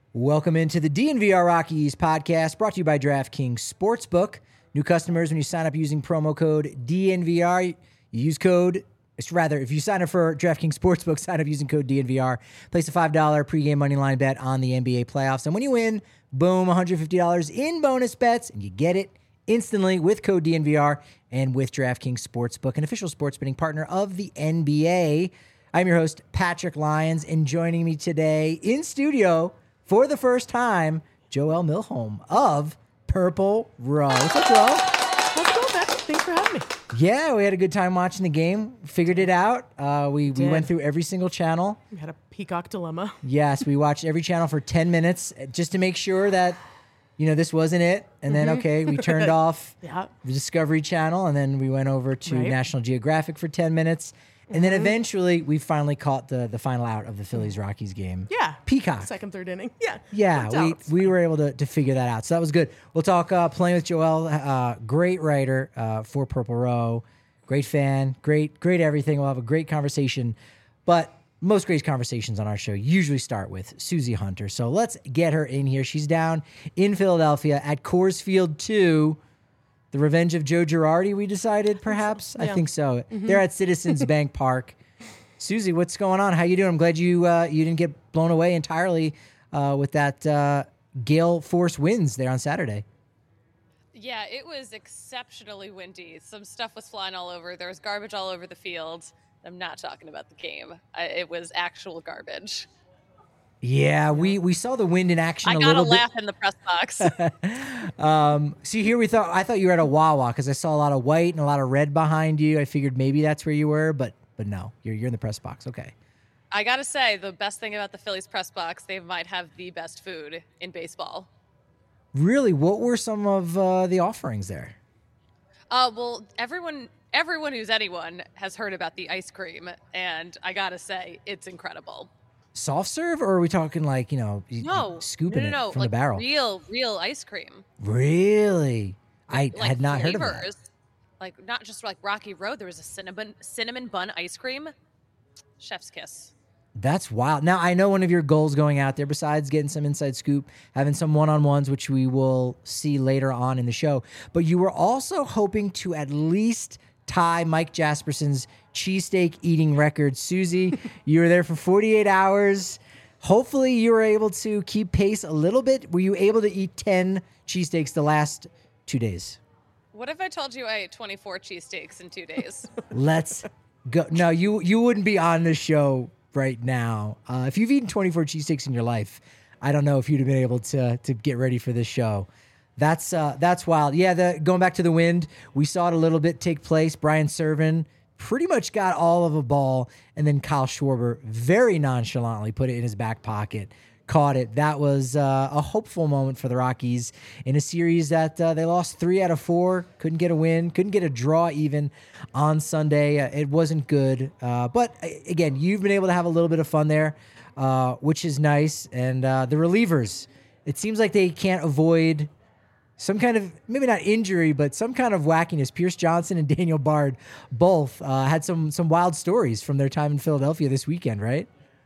Welcome into the DNVR Rockies podcast, brought to you by DraftKings Sportsbook. New customers, when you sign up using promo code DNVR, you use code, if you sign up for DraftKings Sportsbook, sign up using code DNVR. Place a $5 pregame moneyline bet on the NBA playoffs. And when you win, boom, $150 in bonus bets, and you get it instantly with code DNVR and with DraftKings Sportsbook, an official sports betting partner of the NBA. I'm your host, Patrick Lyons, and joining me today in studio for the first time, Joelle Milholm of Purple Row. What's up, Joelle? How's it going, Patrick? Thanks for having me. Yeah, we had a good time watching the game. Figured it out. We went through every single channel. We had a peacock dilemma. Yes, we watched every channel for 10 minutes just to make sure that, this wasn't it. And then, we turned off the Discovery Channel, and then we went over to National Geographic for 10 minutes. And then eventually we finally caught the final out of the Phillies-Rockies game. Yeah. Peacock. Second, third inning. Yeah, we were able to figure that out. So that was good. We'll talk Playing with Joelle, great writer for Purple Row, great fan, great everything. We'll have a great conversation. But most great conversations on our show usually start with Susie Hunter. So let's get her in here. She's down in Philadelphia at Coors Field 2. The Revenge of Joe Girardi, we decided, perhaps? I think so. They're at Citizens Bank Park. Susie, what's going on? How you doing? I'm glad you didn't get blown away entirely with that gale force winds there on Saturday. Yeah, it was exceptionally windy. Some stuff was flying all over. There was garbage all over the field. I'm not talking about the game. It was actual garbage. Yeah, we saw the wind in action a little bit. I got a laugh in the press box. See, here I thought you were at a Wawa because I saw a lot of white and a lot of red behind you. I figured maybe that's where you were, but no, you're in the press box. Okay. I got to say, the best thing about the Phillies press box, they might have the best food in baseball. Really? What were some of the offerings there? Well, everyone who's anyone has heard about the ice cream, and I got to say, it's incredible. Soft serve, or are we talking like, scooping it from the barrel? Real ice cream. Really? I had not heard of that. Like, not just like Rocky Road. There was a cinnamon bun ice cream. Chef's kiss. That's wild. Now, I know one of your goals going out there, besides getting some inside scoop, having some one-on-ones, which we will see later on in the show, but you were also hoping to at least tie Mike Jasperson's cheesesteak eating record. Susie, you were there for 48 hours. Hopefully you were able to keep pace a little bit. Were you able to eat 10 cheesesteaks the last 2 days? What if I told you I ate 24 cheesesteaks in 2 days? Let's go. No, you wouldn't be on the show right now. If you've eaten 24 cheesesteaks in your life, I don't know if you'd have been able to get ready for this show. That's wild. Yeah, going back to the wind, we saw it a little bit take place. Brian Serven pretty much got all of a ball, and then Kyle Schwarber very nonchalantly put it in his back pocket, caught it. That was a hopeful moment for the Rockies in a series that they lost 3 out of 4, couldn't get a win, couldn't get a draw even on Sunday. It wasn't good. But again, you've been able to have a little bit of fun there, which is nice. And the relievers, it seems like they can't avoid some kind of, maybe not injury, but some kind of wackiness. Pierce Johnson and Daniel Bard both had some wild stories from their time in Philadelphia this weekend, right?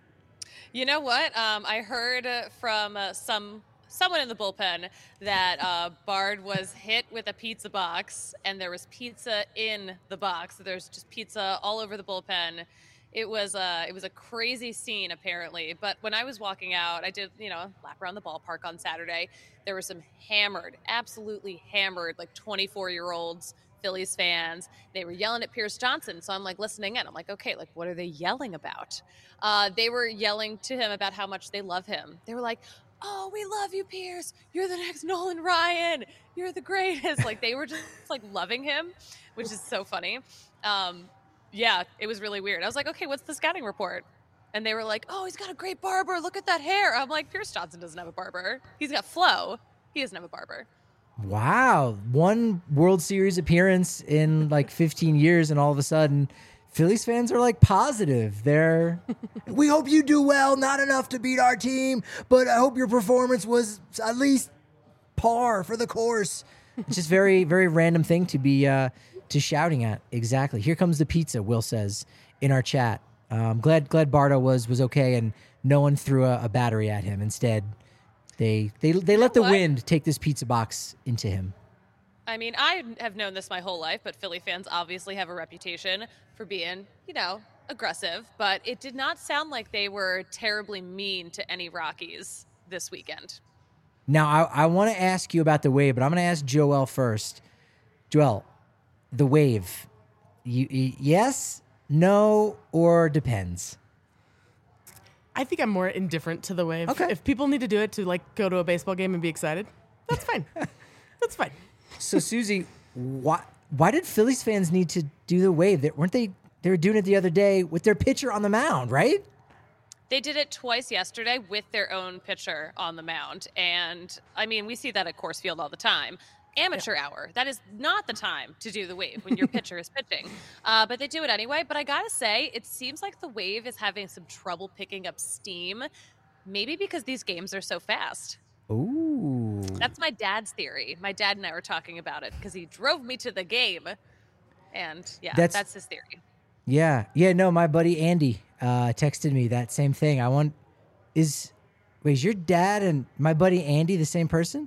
You know what? I heard from someone in the bullpen that Bard was hit with a pizza box, and there was pizza in the box. There's just pizza all over the bullpen. It was a crazy scene, apparently. But when I was walking out, I did, lap around the ballpark on Saturday. There were some absolutely hammered, like 24-year-olds, Phillies fans. They were yelling at Pierce Johnson. So I'm like listening in. I'm like, okay, like what are they yelling about? They were yelling to him about how much they love him. They were like, oh, we love you, Pierce. You're the next Nolan Ryan. You're the greatest. Like they were just like loving him, which is so funny. Yeah, it was really weird. I was like, okay, what's the scouting report? And they were like, oh, he's got a great barber. Look at that hair. I'm like, Pierce Johnson doesn't have a barber. He's got flow. He doesn't have a barber. Wow. One World Series appearance in like 15 years, and all of a sudden, Phillies fans are like positive. We hope you do well, not enough to beat our team, but I hope your performance was at least par for the course. It's just very, very random thing to be shouting at. Exactly. Here comes the pizza, Will says in our chat. Glad Bardo was okay and no one threw a battery at him. Instead, They let the what? wind take this pizza box into him. I mean, I have known this my whole life, but Philly fans obviously have a reputation for being, aggressive. But it did not sound like they were terribly mean to any Rockies this weekend. Now, I want to ask you about the wave, but I'm going to ask Joel first. Joel, the wave, yes, no, or depends? I think I'm more indifferent to the wave. Okay. If people need to do it to go to a baseball game and be excited, that's fine. That's fine. So, Susie, why did Phillies fans need to do the wave? They were doing it the other day with their pitcher on the mound, right? They did it twice yesterday with their own pitcher on the mound. And, I mean, we see that at Coors Field all the time. Amateur hour. That is not the time to do the wave when your pitcher is pitching. But they do it anyway. But I got to say, it seems like the wave is having some trouble picking up steam, maybe because these games are so fast. Ooh. That's my dad's theory. My dad and I were talking about it because he drove me to the game. And, yeah, that's his theory. Yeah. No, my buddy Andy texted me that same thing. Is your dad and my buddy Andy the same person?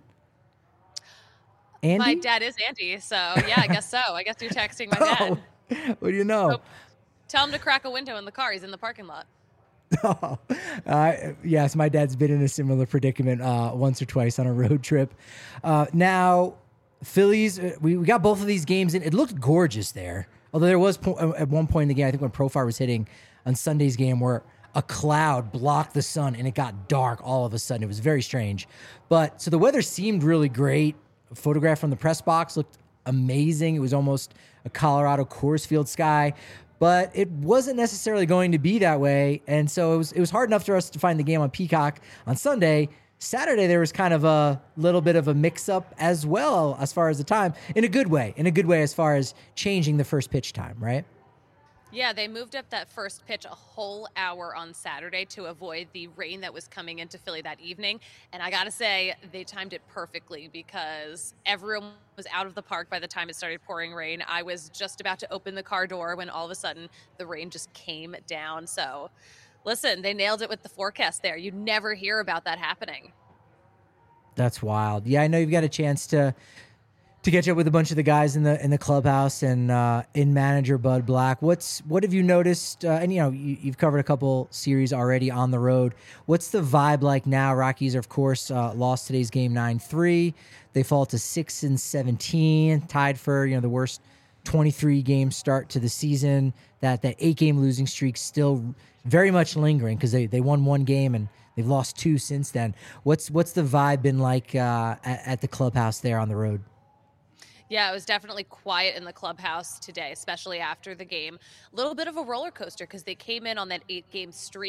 Andy? My dad is Andy, so yeah, I guess so. I guess you're texting my dad. Oh, what do you know? So, tell him to crack a window in the car. He's in the parking lot. Oh, yes, my dad's been in a similar predicament once or twice on a road trip. Now, Phillies, we got both of these games in. It looked gorgeous there. Although there was at one point in the game, I think when Profar was hitting on Sunday's game, where a cloud blocked the sun and it got dark all of a sudden. It was very strange. But so the weather seemed really great. A photograph from the press box looked amazing. It was almost a Colorado Coors Field sky. But it wasn't necessarily going to be that way. And so it was hard enough for us to find the game on Peacock on Sunday. Saturday, there was kind of a little bit of a mix-up as well as far as the time, in a good way as far as changing the first pitch time, right? Yeah, they moved up that first pitch a whole hour on Saturday to avoid the rain that was coming into Philly that evening. And I got to say, they timed it perfectly because everyone was out of the park by the time it started pouring rain. I was just about to open the car door when all of a sudden the rain just came down. So listen, they nailed it with the forecast there. You never hear about that happening. That's wild. Yeah, I know you've got a chance to catch up with a bunch of the guys in the clubhouse and in manager Bud Black. What have you noticed? And you've covered a couple series already on the road. What's the vibe like now? Rockies are, of course, lost today's game 9-3. They fall to 6-17, tied for the worst 23 game start to the season. That 8-game losing streak still very much lingering because they won one game and they've lost 2 since then. What's the vibe been like at the clubhouse there on the road? Yeah, it was definitely quiet in the clubhouse today, especially after the game. A little bit of a roller coaster because they came in on that 8-game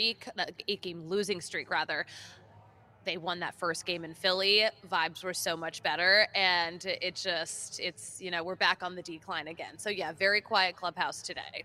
losing streak, rather. They won that first game in Philly. Vibes were so much better. And we're back on the decline again. So yeah, very quiet clubhouse today.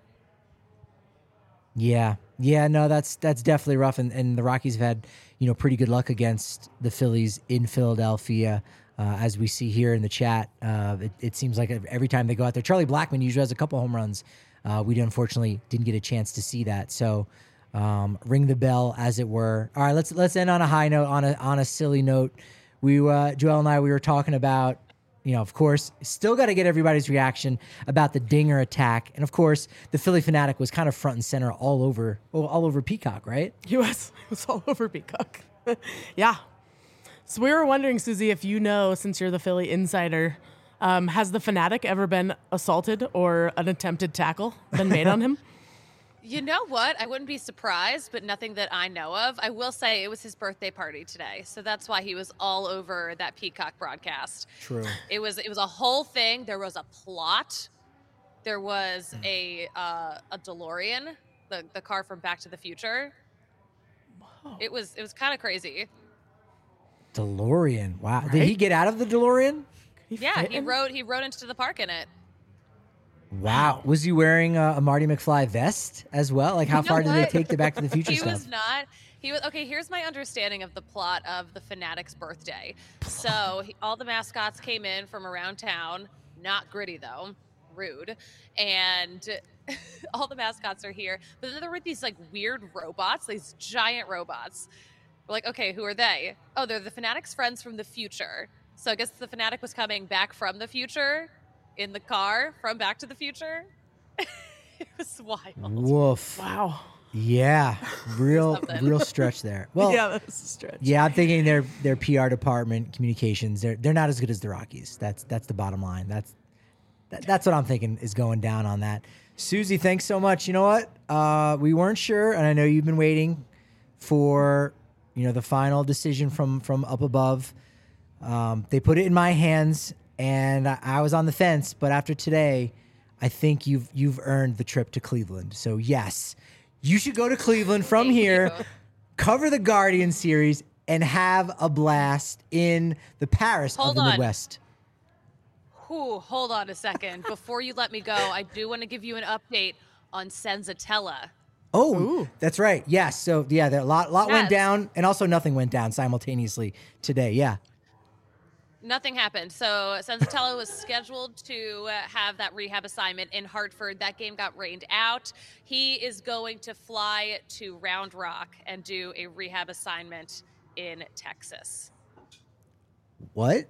Yeah, no, that's definitely rough. And the Rockies have had, pretty good luck against the Phillies in Philadelphia. As we see here in the chat, it seems like every time they go out there, Charlie Blackmon usually has a couple home runs. We unfortunately didn't get a chance to see that. So ring the bell, as it were. All right, let's end on a high note, on a silly note. Joel and I, we were talking about, of course, still got to get everybody's reaction about the Dinger attack, and of course, the Philly Fanatic was kind of front and center all over Peacock, right? It was all over Peacock. Yeah. So we were wondering, Susie, if since you're the Philly insider, has the Fanatic ever been assaulted or an attempted tackle been made on him? You know what? I wouldn't be surprised, but nothing that I know of. I will say it was his birthday party today, so that's why he was all over that Peacock broadcast. True. It was a whole thing. There was a plot. There was a DeLorean, the car from Back to the Future. Whoa. It was kind of crazy. DeLorean. Wow. Right? Did he get out of the DeLorean? Yeah, he rode into the park in it. Wow. Was he wearing a Marty McFly vest as well? Like, how far did they take the Back to the Future stuff? He was not. Okay, here's my understanding of the plot of the Fanatic's birthday. So all the mascots came in from around town. Not Gritty, though. Rude. And all the mascots are here. But then there were these, weird robots, these giant robots We're like, okay, who are they? Oh, they're the Fnatic's friends from the future. So I guess the Fnatic was coming back from the future in the car from Back to the Future. It was wild. Woof. Wow. Yeah, real stretch there. Well, Yeah, that's a stretch. yeah, I'm thinking their PR department, communications, they're not as good as the Rockies. That's the bottom line. That's what I'm thinking is going down on that. Susie, thanks so much. You know what? We weren't sure, and I know you've been waiting for the final decision from up above. They put it in my hands, and I was on the fence. But after today, I think you've earned the trip to Cleveland. So yes, you should go to Cleveland from here, cover the Guardian series, and have a blast in the Paris of the Midwest. Hold on a second. Before you let me go, I do want to give you an update on Senzatella. Oh, that's right. Yes. So yeah, a lot went down, and also nothing went down simultaneously today. Yeah. Nothing happened. So Senzatella was scheduled to have that rehab assignment in Hartford. That game got rained out. He is going to fly to Round Rock and do a rehab assignment in Texas. What?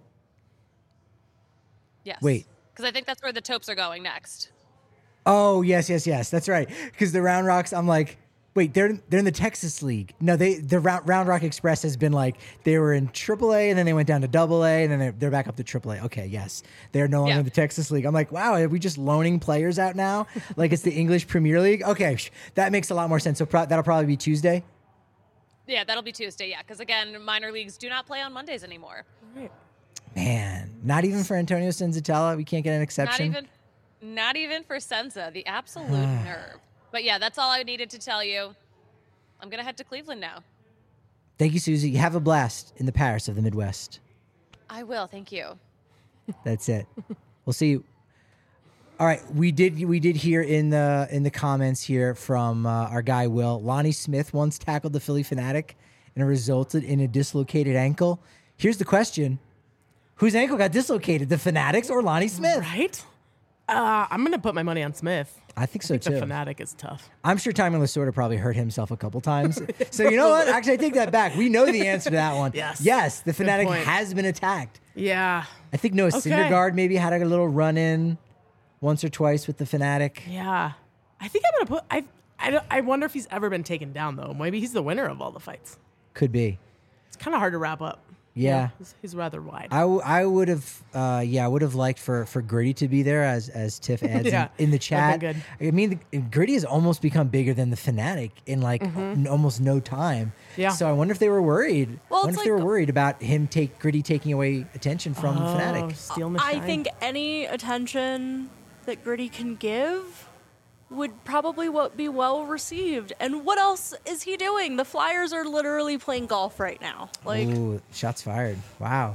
Yes. Wait. Because I think that's where the Taupes are going next. Oh, yes. That's right. Because the Round Rocks, I'm like, wait, they're in the Texas League. No, the Round Rock Express has been like, they were in AAA, and then they went down to AA, and then they're back up to AAA. Okay, yes. They're no longer in the Texas League. I'm like, wow, are we just loaning players out now? Like it's the English Premier League? Okay, that makes a lot more sense. So that'll probably be Tuesday? Yeah, that'll be Tuesday, yeah. Because, again, minor leagues do not play on Mondays anymore. Right. Man, not even for Antonio Senzatella? We can't get an exception? Not even for Senza. The absolute nerve. But yeah, that's all I needed to tell you. I'm going to head to Cleveland now. Thank you, Susie. Have a blast in the Paris of the Midwest. I will. Thank you. That's it. We'll see you. All right. We did hear in the comments here from our guy, Will. Lonnie Smith once tackled the Philly Fanatic and it resulted in a dislocated ankle. Here's the question. Whose ankle got dislocated? The Fanatics or Lonnie Smith? Right? I'm going to put my money on Smith. I think so, too. The Fanatic is tough. I'm sure Tommy Lasorda probably hurt himself a couple times. So you know what? Actually, I take that back. We know the answer to that one. Yes, the Fanatic has been attacked. Yeah. I think Noah Syndergaard maybe had a little run-in once or twice with the Fanatic. Yeah. I think I'm going to put... I wonder if he's ever been taken down, though. Maybe he's the winner of all the fights. Could be. It's kind of hard to wrap up. Yeah. He's rather wide. I would have liked for Gritty to be there as Tiff adds in the chat. Good. I mean, Gritty has almost become bigger than the Fanatic in almost no time. Yeah. So I wonder if they were worried. Well, I wonder if they were worried about Gritty taking away attention from the Fanatic. Steal my shine. I think any attention that Gritty can give would probably be well received. And what else is he doing? The Flyers are literally playing golf right now. Ooh, shots fired! Wow.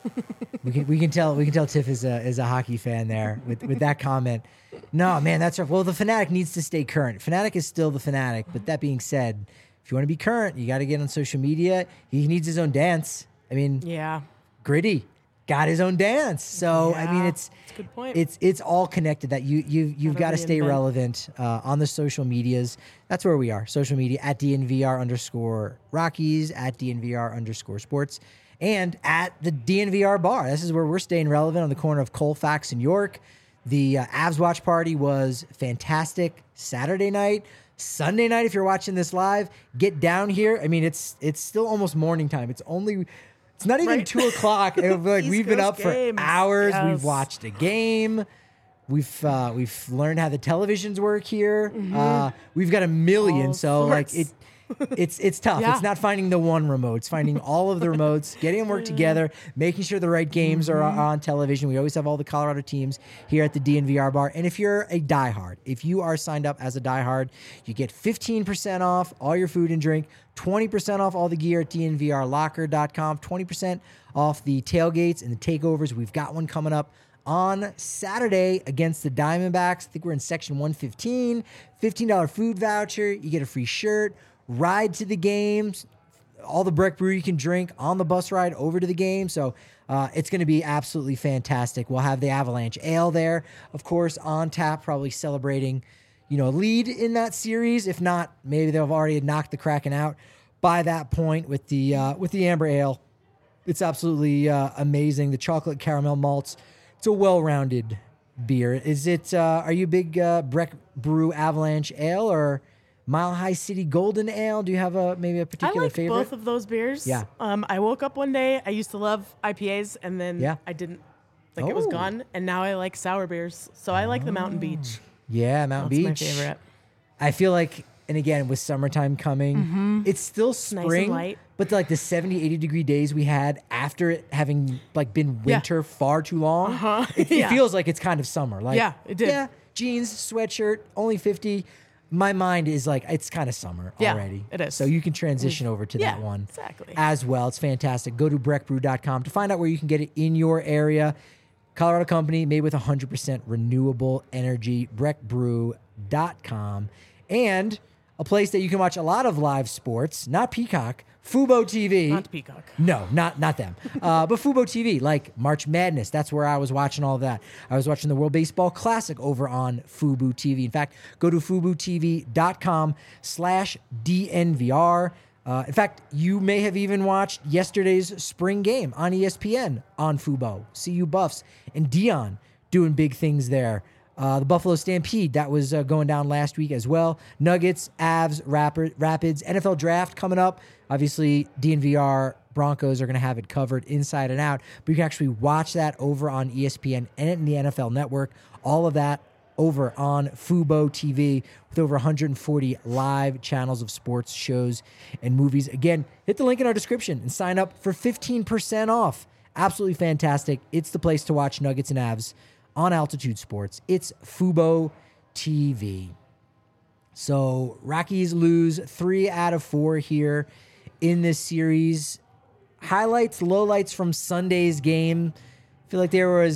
we can tell Tiff is a hockey fan there with that comment. No, man, that's rough. Well, the Fanatic needs to stay current. Fanatic is still the Fanatic, but that being said, if you want to be current, you got to get on social media. He needs his own dance. I mean, Gritty got his own dance. So I mean, it's a good point. It's all connected. That you've got to stay relevant on the social medias. That's where we are. Social media at DNVR_Rockies, at DNVR_Sports, and at the DNVR bar. This is where we're staying relevant on the corner of Colfax and York. The Avs watch party was fantastic Saturday night. Sunday night, if you're watching this live, get down here. I mean, it's still almost morning time. It's not even 2 o'clock. We've been up for hours. Yes. We've watched a game. We've learned how the televisions work here. We've got a million. It's tough. Yeah. It's not finding the one remote. It's finding all of the remotes, getting them work together, making sure the right games are on television. We always have all the Colorado teams here at the DNVR bar. And if you're a diehard, if you are signed up as a diehard, you get 15% off all your food and drink, 20% off all the gear at DNVRlocker.com, 20% off the tailgates and the takeovers. We've got one coming up on Saturday against the Diamondbacks. I think we're in section 115, $15 food voucher. You get a free shirt. Ride to the games, all the Breck Brew you can drink on the bus ride over to the game. So it's going to be absolutely fantastic. We'll have the Avalanche Ale there, of course, on tap, probably celebrating, a lead in that series. If not, maybe they've already knocked the Kraken out. by that point with the amber ale. It's absolutely amazing. The chocolate caramel malts. It's a well-rounded beer. Is it? Are you a big Breck Brew Avalanche Ale or Mile High City Golden Ale? Do you have maybe a particular I like favorite? both of those beers. Yeah. I woke up one day. I used to love IPAs, and then Yeah. I didn't. Like it was Oh. gone, and now I like sour beers. So I like the Mountain Beach. Yeah, Mountain That's Beach. my favorite. I feel like, and again, with summertime coming, it's still and spring, light. but like the 70, 80 degree days we had after it having like been Yeah. winter far too long, it Yeah. feels like it's kind of summer. Like, Yeah, it did. Yeah, jeans, sweatshirt, only 50. My mind is like, it's kind of summer Yeah, already. it is. So you can transition over to Yeah, that one exactly. as well. It's fantastic. Go to breckbrew.com to find out where you can get it in your area. Colorado company made with 100% renewable energy, breckbrew.com. And a place that you can watch a lot of live sports, not Peacock, Fubo TV. Not Peacock. No, not them. But Fubo TV, like March Madness. That's where I was watching all of that. I was watching the World Baseball Classic over on Fubo TV. In fact, go to FuboTV.com/DNVR. In fact, you may have even watched yesterday's spring game on ESPN on Fubo. CU Buffs and Dion doing big things there. The Buffalo Stampede, that was going down last week as well. Nuggets, Avs, Rapids, NFL Draft coming up. Obviously, DNVR Broncos are going to have it covered inside and out. But you can actually watch that over on ESPN and in the NFL Network. All of that over on Fubo TV with over 140 live channels of sports, shows, and movies. Again, hit the link in our description and sign up for 15% off. Absolutely fantastic. It's the place to watch Nuggets and Avs on Altitude Sports. It's Fubo TV. So Rockies lose 3 out of 4 here in this series. Highlights, lowlights from Sunday's game. I feel like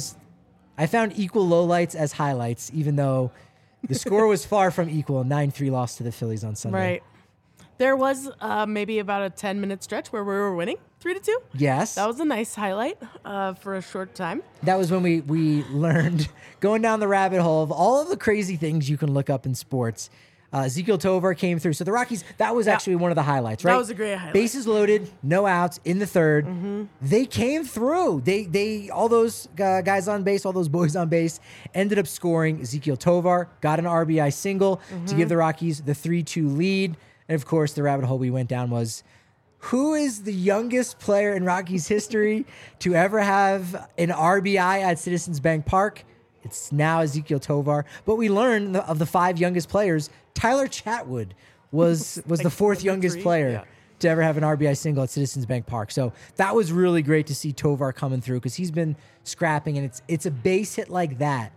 I found equal lowlights as highlights, even though the score was far from equal. 9-3 loss to the Phillies on Sunday. Right. There was maybe about a 10-minute stretch where we were winning 3-2. Yes. That was a nice highlight for a short time. That was when we learned, going down the rabbit hole of all of the crazy things you can look up in sports. Ezekiel Tovar came through. So the Rockies, that was actually one of the highlights, right? That was a great highlight. Bases loaded, no outs in the third. They came through. They all those guys on base, all those boys on base, ended up scoring. Ezekiel Tovar got an RBI single to give the Rockies the 3-2 lead. And of course, the rabbit hole we went down was, who is the youngest player in Rockies history to ever have an RBI at Citizens Bank Park? It's now Ezekiel Tovar. But we learned of the 5 youngest players, Tyler Chatwood was the 4th youngest three? player Yeah. to ever have an RBI single at Citizens Bank Park. So that was really great to see Tovar coming through because he's been scrapping, and it's a base hit like that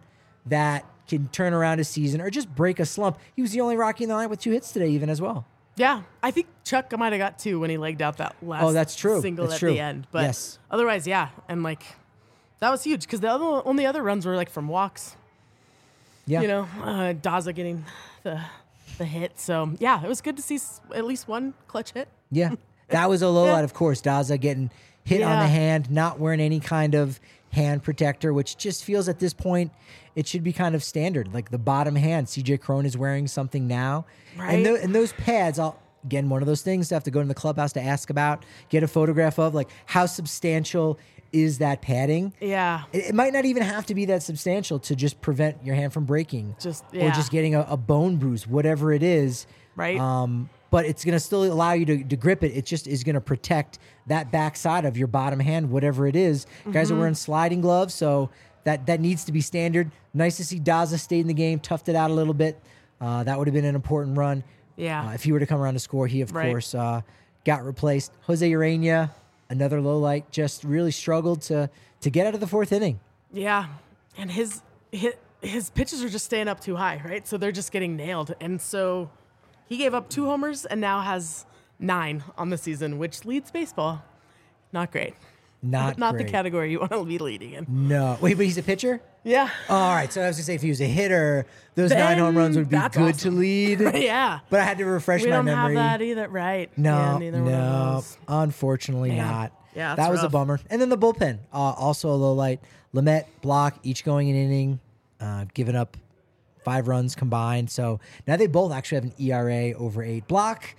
can turn around a season or just break a slump. He was the only Rocky in the line with 2 hits today even as well. Yeah, I think Chuck might have got 2 when he legged out that last that's true. single That's at true. the end. But Yes. otherwise, yeah. And like, that was huge because the only other runs were like from walks. Yeah. You know, Daza getting the hit. So yeah, it was good to see at least one clutch hit. Yeah. That was a low Yeah. light, of course. Daza getting hit on Yeah. the hand, not wearing any kind of hand protector, which just feels at this point it should be kind of standard. Like the bottom hand, CJ Cron is wearing something now. Right. And those pads, again, one of those things to have to go to the clubhouse to ask about, get a photograph of, like how substantial is that padding? Yeah. It might not even have to be that substantial to just prevent your hand from breaking or Yeah. just getting a bone bruise, whatever it is. Right. But it's going to still allow you to grip it. It just is going to protect that backside of your bottom hand, whatever it is. Guys are wearing sliding gloves, so that needs to be standard. Nice to see Daza stayed in the game, toughed it out a little bit. That would have been an important run. Yeah. If he were to come around to score, he, of Right. course, got replaced. Jose Urena, another low light, just really struggled to get out of the 4th inning. Yeah, and his pitches are just staying up too high, right? So they're just getting nailed, and so he gave up 2 homers and now has 9 on the season, which leads baseball. Not great. Not the great. category you want to be leading in. No. Wait, but he's a pitcher? Yeah. All right. So I was going to say, if he was a hitter, those Then 9 home runs would be that's good awesome. to lead. Yeah. But I had to refresh We my don't memory. have that either, right? No, Yeah, neither one of no, those. unfortunately Man. not. Yeah, that that's was a rough. bummer. And then the bullpen, also a low light. Lamet, Block, each going an inning, giving up 5 runs combined. So now they both actually have an ERA over 8. Block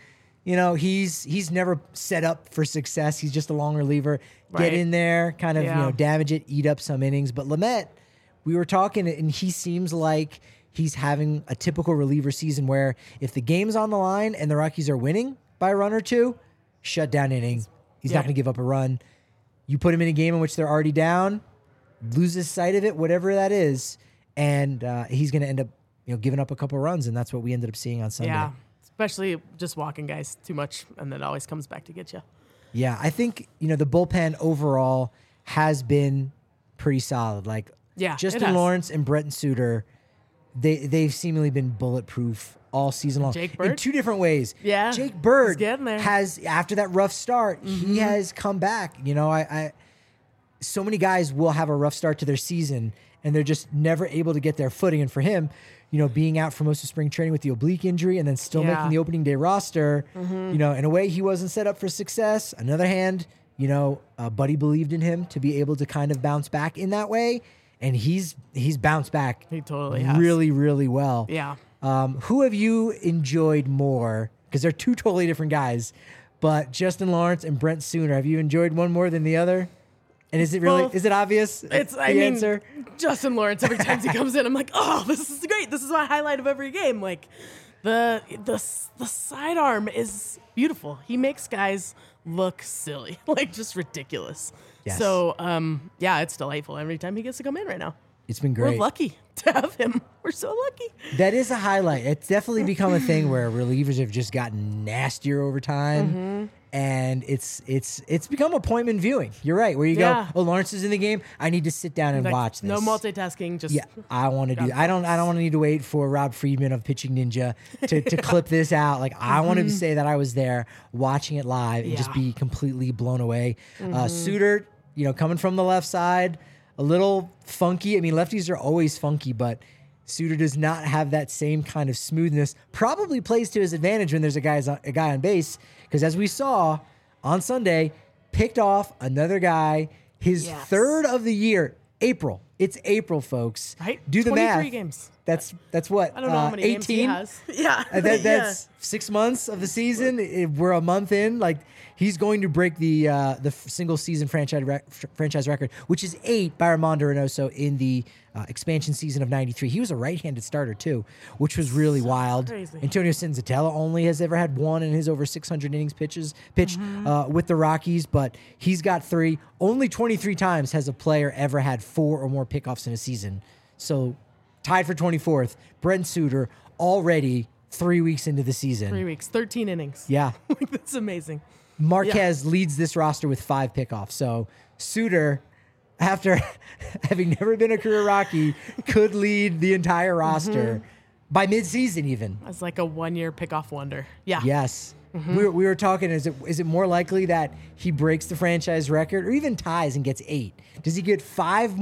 You know, he's never set up for success. He's just a long reliever. Get Right. in there, kind of, Yeah. damage it, eat up some innings. But Lamet, we were talking, and he seems like he's having a typical reliever season where if the game's on the line and the Rockies are winning by a run or two, shut down inning. He's not Yep. going to give up a run. You put him in a game in which they're already down, loses sight of it, whatever that is, and he's going to end up, giving up a couple runs, and that's what we ended up seeing on Sunday. Yeah, especially just walking guys too much, and then it always comes back to get you. Yeah, I think, the bullpen overall has been pretty solid. Like, Yeah, it Justin has. Lawrence and Bretton Suter, they've seemingly been bulletproof all season long. Jake In Bird? two different ways. Yeah, Jake Bird he's getting there. has, after that rough start, he has come back. So many guys will have a rough start to their season, and they're just never able to get their footing. And for him, being out for most of spring training with the oblique injury and then still Yeah. making the opening day roster, in a way he wasn't set up for success. On the other hand, Buddy believed in him to be able to kind of bounce back in that way, and he's bounced back He totally has. really, really well. Yeah. Who have you enjoyed more? Because they're two totally different guys, but Justin Lawrence and Brent Suter, have you enjoyed one more than the other? And is it really, Well, is it obvious? Answer? Justin Lawrence, every time he comes in, I'm like, oh, this is great. This is my highlight of every game. Like, the sidearm is beautiful. He makes guys look silly, like just ridiculous. Yes. So, yeah, it's delightful every time he gets to come in right now. It's been great. We're lucky to have him. We're so lucky. That is a highlight. It's definitely become a thing where relievers have just gotten nastier over time. And it's become appointment viewing. You're right. Where you Yeah. go, oh, Lawrence is in the game. I need to sit down and Like, watch this. No multitasking. Just Yeah, I want to do. I don't want to need to wait for Rob Friedman of Pitching Ninja to clip this out. Like I wanted to say that I was there watching it live and just Yeah. be completely blown away. Suter, coming from the left side, a little funky. I mean, lefties are always funky, but Suter does not have that same kind of smoothness. Probably plays to his advantage when there's a guy on base, because as we saw on Sunday, picked off another guy, his Yes. third of the year. April. It's April, folks. Right? Do the 23 math. games. That's what? I don't know how many games he 18? has. Yeah. That's 6 months of the season. We're a month in. Like he's going to break the single season franchise record, which is 8 by Armando Reynoso in the expansion season of '93. He was a right-handed starter too, which was really wild. crazy. Antonio Senzatella only has ever had one in his over 600 innings pitched with the Rockies, but he's got 3. Only 23 times has a player ever had 4 or more pickoffs in a season. So tied for 24th, Brent Suter already 3 weeks into the season. 3 weeks, 13 innings. Yeah. Like, that's amazing. Marquez leads this roster with 5 pickoffs. So Suter, after having never been a career Rocky, could lead the entire roster by midseason even. That's like a 1-year pickoff wonder. Yeah. Yes. We were talking, is it more likely that he breaks the franchise record or even ties and gets 8? Does he get 5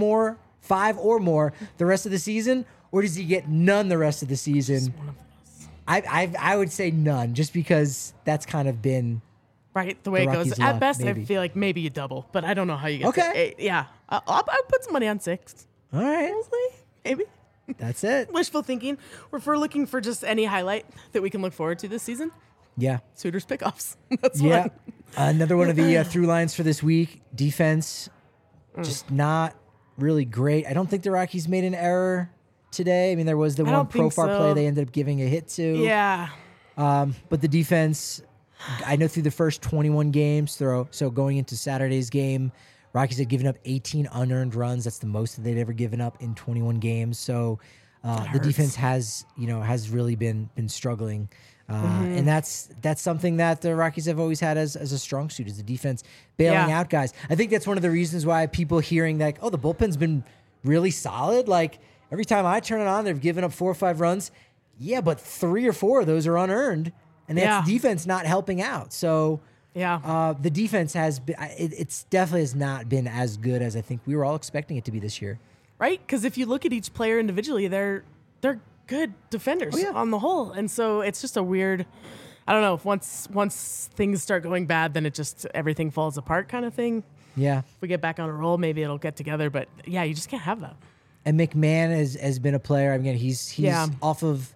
or more the rest of the season, or does he get none the rest of the season? One of those. I would say none, just because that's kind of been Right, the way The it goes. Rockies' At luck, best, maybe. I feel like maybe you double, but I don't know how you get Okay. to 8. Yeah. I'll put some money on 6. all right. Honestly, maybe. That's it. Wishful thinking. If we're looking for just any highlight that we can look forward to this season, Yeah. Suter's pickoffs. That's Yeah. one. Another one of the through lines for this week. Defense, just not really great. I don't think the Rockies made an error today. I mean, there was the I one don't think Profar so. play they ended up giving a hit to. Yeah. But the defense, I know through the first 21 games, so going into Saturday's game, Rockies had given up 18 unearned runs. That's the most that they'd ever given up in 21 games. So the defense has really been struggling. And that's something that the Rockies have always had as a strong suit, is the defense bailing Yeah. out guys. I think that's one of the reasons why people hearing that, oh, the bullpen's been really solid. Like every time I turn it on, they've given up 4 or 5 runs. Yeah, but 3 or 4 of those are unearned, and that's Yeah. defense not helping out. So Yeah. the defense has been, it's definitely has not been as good as I think we were all expecting it to be this year. Right? Because if you look at each player individually, they're good defenders yeah. on the whole, and so it's just a weird. I don't know. If once things start going bad, then it just everything falls apart, kind of thing. Yeah. If we get back on a roll, maybe it'll get together. But yeah, you just can't have that. And McMahon has been a player. I mean, he's Yeah. off of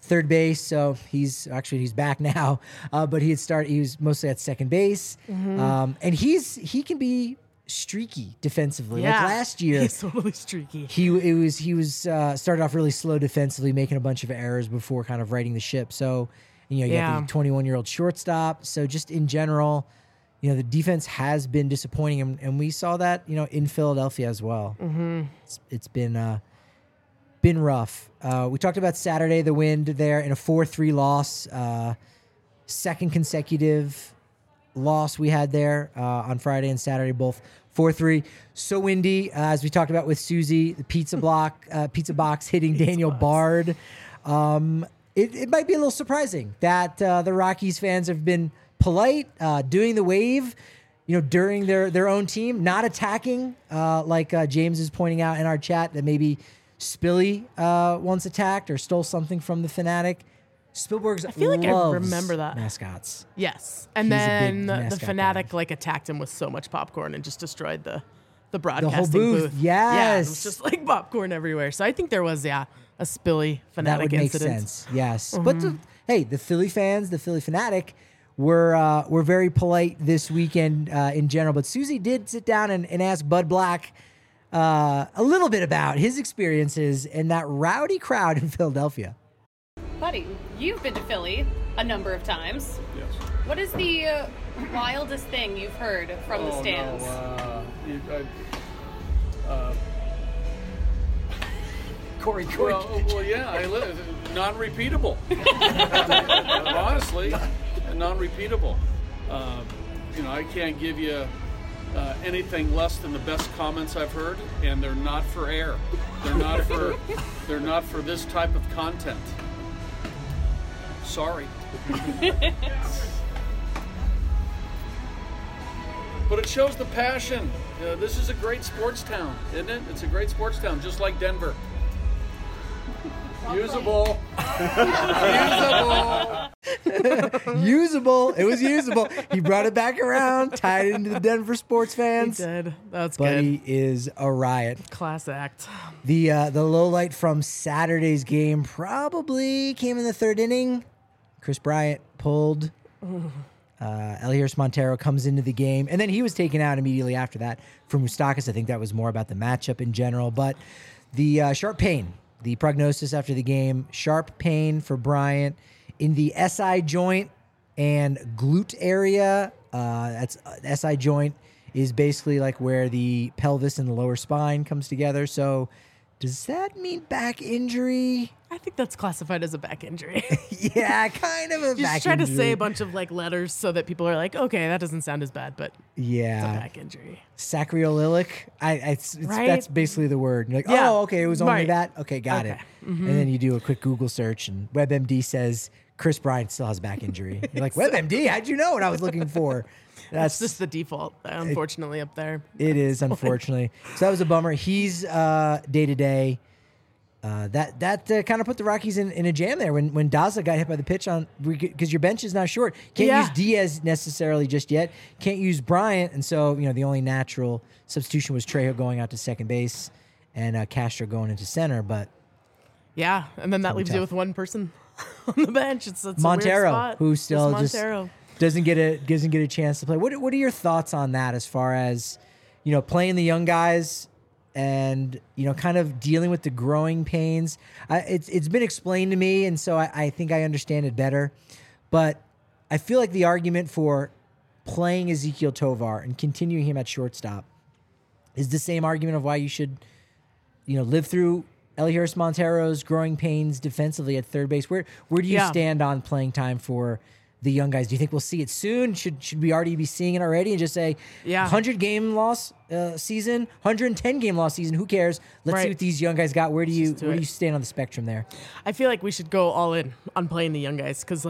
third base, so he's back now. But he was mostly at second base, and he can be streaky defensively. Yeah, like last year, he's totally streaky. he was started off really slow defensively, making a bunch of errors before kind of righting the ship. So you got the 21-year-old shortstop. So just in general, the defense has been disappointing, and we saw that in Philadelphia as well. It's been rough. We talked about Saturday, the Wind there in a 4-3 loss, second consecutive loss we had there on Friday and Saturday, both 4-3. So windy, as we talked about with Susie, the pizza box hitting Daniel Bard. It might be a little surprising that the Rockies fans have been polite, doing the wave, during their own team, not attacking, like James is pointing out in our chat that maybe Spilly once attacked or stole something from the Fanatic. Spielberg's I feel like I loves remember that. mascots. Yes, and He's a then big the mascot Fanatic guy. attacked him with so much popcorn and just destroyed the broadcasting booth. Yeah, it Yes. was just like popcorn everywhere. So I think there was a Spilly That Fanatic would make incident. sense. Yes, but the Philly fans, the Philly Fanatic, were very polite this weekend in general. But Susie did sit down and ask Bud Black a little bit about his experiences in that rowdy crowd in Philadelphia. Buddy, you've been to Philly a number of times. Yes. What is the wildest thing you've heard from the stands? Corey. Well, yeah, I live non-repeatable. Honestly, non-repeatable. I can't give you anything less than the best comments I've heard, and they're not for air. They're not for this type of content. Sorry. But it shows the passion. This is a great sports town, isn't it? It's a great sports town, just like Denver. Usable. Usable. It was usable. He brought it back around, tied it into the Denver sports He fans. did. That's But good. he is a riot. Class act. The low light from Saturday's game probably came in the third inning. Chris Bryant pulled. Elias Montero comes into the game, and then he was taken out immediately after that for Moustakas. I think that was more about the matchup in general. But the sharp pain, the prognosis after the game, sharp pain for Bryant in the SI joint and glute area. That's SI joint is basically like where the pelvis and the lower spine comes together. So does that mean back injury? I think that's classified as a back injury. Yeah, kind of a back Just try injury. to say a bunch of letters so that people are like, okay, that doesn't sound as bad, but it's a Yeah. back injury. Sacroiliac. Right? That's basically the word. You're like, Yeah. oh, okay, it was only Right. that? Okay, got it. And then you do a quick Google search, and WebMD says Chris Bryant still has back injury. You're like, WebMD? How'd you know what I was looking for? That's just the default, unfortunately, up there. It is, unfortunately. So that was a bummer. He's day-to-day. That kind of put the Rockies in a jam there when Daza got hit by the pitch because your bench is not short. Can't use Diaz necessarily just yet. Can't use Bryant, and so the only natural substitution was Trejo going out to second base and Castro going into center. But Yeah, and then that leaves you tough. with one person on the bench. It's a weird Montero, spot. who still Just just Montero. doesn't get a chance to play. What are your thoughts on that as far as playing the young guys? And kind of dealing with the growing pains. It's been explained to me, and so I think I understand it better. But I feel like the argument for playing Ezequiel Tovar and continuing him at shortstop is the same argument of why you should, live through Elias Montero's growing pains defensively at third base. Where do you stand on playing time for the young guys? Do you think we'll see it soon? Should we already be seeing it already and just say 100 game loss season, 110 game loss season? Who cares? Let's see what these young guys got. Where do you stand on the spectrum there? I feel like we should go all in on playing the young guys because,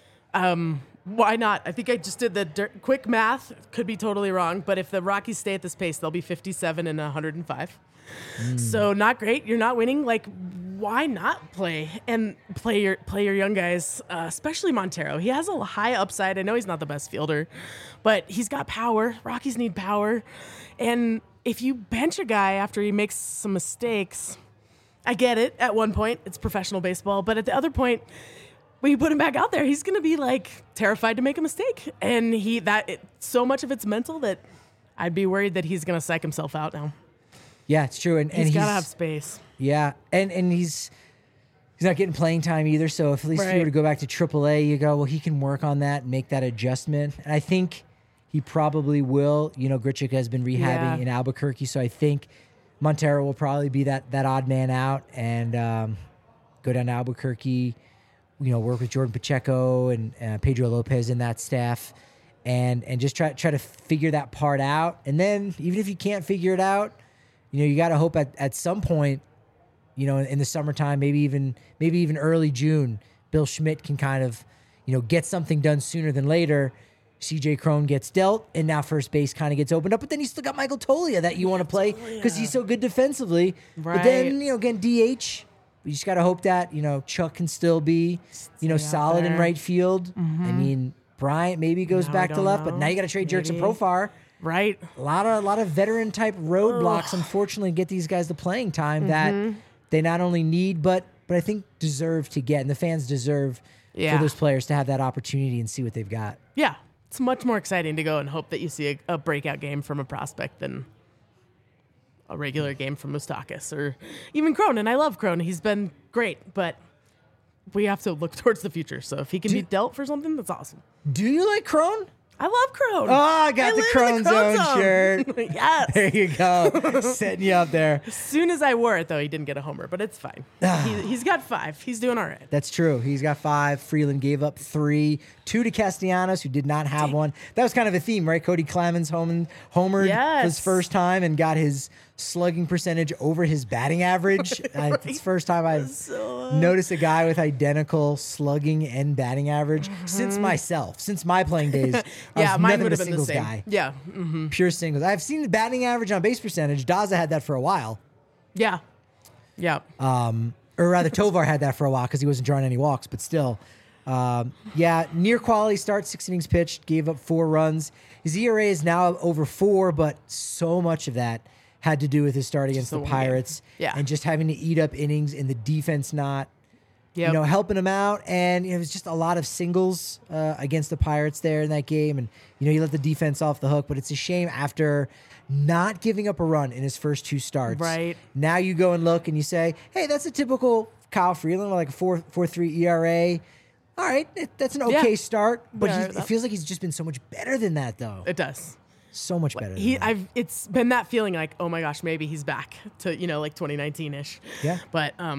why not? I think I just did the quick math. Could be totally wrong, but if the Rockies stay at this pace, they'll be 57 and 105. So not great. You're not winning. Why not play your young guys, especially Montero? He has a high upside. I know he's not the best fielder, but he's got power. Rockies need power, and if you bench a guy after he makes some mistakes, I get it. At one point, it's professional baseball, but at the other point, when you put him back out there, he's going to be like terrified to make a mistake, and so much of it's mental that I'd be worried that he's going to psych himself out now. Yeah, it's true, and He's got to have space. Yeah, and he's not getting playing time either. So if at least he were to go back to AAA, you go, well, he can work on that and make that adjustment. And I think he probably will. You know, Grichuk has been rehabbing in Albuquerque, so I think Montero will probably be that odd man out and go down to Albuquerque. You know, work with Jordan Pacheco and Pedro Lopez in that staff, and just try to figure that part out. And then even if you can't figure it out, you know, you got to hope at some point, you know, in the summertime, maybe even early June, Bill Schmidt can kind of, you know, get something done sooner than later. CJ Cron gets dealt, and now first base kind of gets opened up. But then you still got Michael Toglia that you want to play because he's so good defensively. Right. But then, you know, again, DH, we just got to hope that, you know, Chuck can still be, you know, solid in right field. I mean, Bryant maybe goes back to left, but now you got to trade Jurickson Profar. Right. A lot of veteran type roadblocks, unfortunately, get these guys the playing time that they not only need, but I think deserve to get. And the fans deserve for those players to have that opportunity and see what they've got. Yeah. It's much more exciting to go and hope that you see a breakout game from a prospect than a regular game from Moustakas or even Cron. And I love Cron. He's been great, but we have to look towards the future. So if he can be dealt for something, that's awesome. Do you like Cron? I love Cron. Oh, I got the Cron Zone shirt. Yes. There you go. Setting you up there. As soon as I wore it, though, he didn't get a homer, but it's fine. He's got 5. He's doing all right. That's true. He's got 5. Freeland gave up 3. 2 to Castellanos, who did not have one. That was kind of a theme, right? Cody Clemens homered for his first time and got his slugging percentage over his batting average. It's the first time I've noticed a guy with identical slugging and batting average since my playing days. I was mine nothing would but have a been the singles same. guy. Yeah. Pure singles. I've seen the batting average on base percentage. Daza had that for a while. Yeah. Yeah. Or rather, Tovar had that for a while because he wasn't drawing any walks, but still. Near quality start, 6 innings pitched, gave up 4 runs. His ERA is now over 4, but so much of that had to do with his start against the Pirates and just having to eat up innings and the defense not, helping him out. And it was just a lot of singles against the Pirates there in that game. And, you let the defense off the hook, but it's a shame after not giving up a run in his first 2 starts. Right. Now you go and look and you say, hey, that's a typical Kyle Freeland with like a 4.3 ERA. All right, that's an okay start, but it feels like he's just been so much better than that, though. It does. So much better. It's been that feeling like, oh my gosh, maybe he's back to, like 2019-ish. Yeah. But I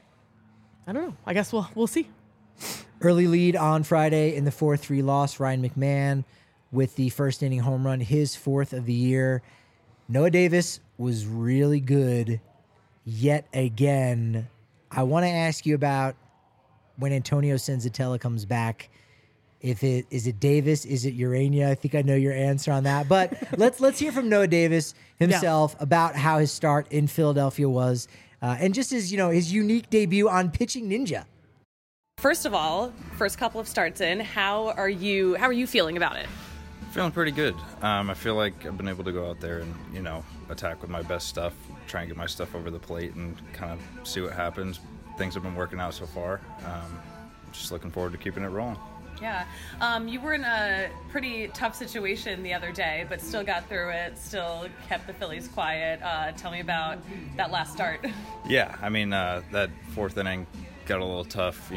don't know. I guess we'll see. Early lead on Friday in the 4-3 loss. Ryan McMahon with the first inning home run, his 4th of the year. Noah Davis was really good yet again. I want to ask you about when Antonio Senzatella comes back. Is it Davis? Is it Urania? I think I know your answer on that. But let's hear from Noah Davis himself about how his start in Philadelphia was, and just his unique debut on Pitching Ninja. First of all, first couple of starts in, how are you feeling about it? Feeling pretty good. I feel like I've been able to go out there and attack with my best stuff, try and get my stuff over the plate, and kind of see what happens. Things have been working out so far. Just looking forward to keeping it rolling. Yeah. You were in a pretty tough situation the other day, but still got through it, still kept the Phillies quiet. Tell me about that last start. Yeah, I mean, that 4th inning got a little tough,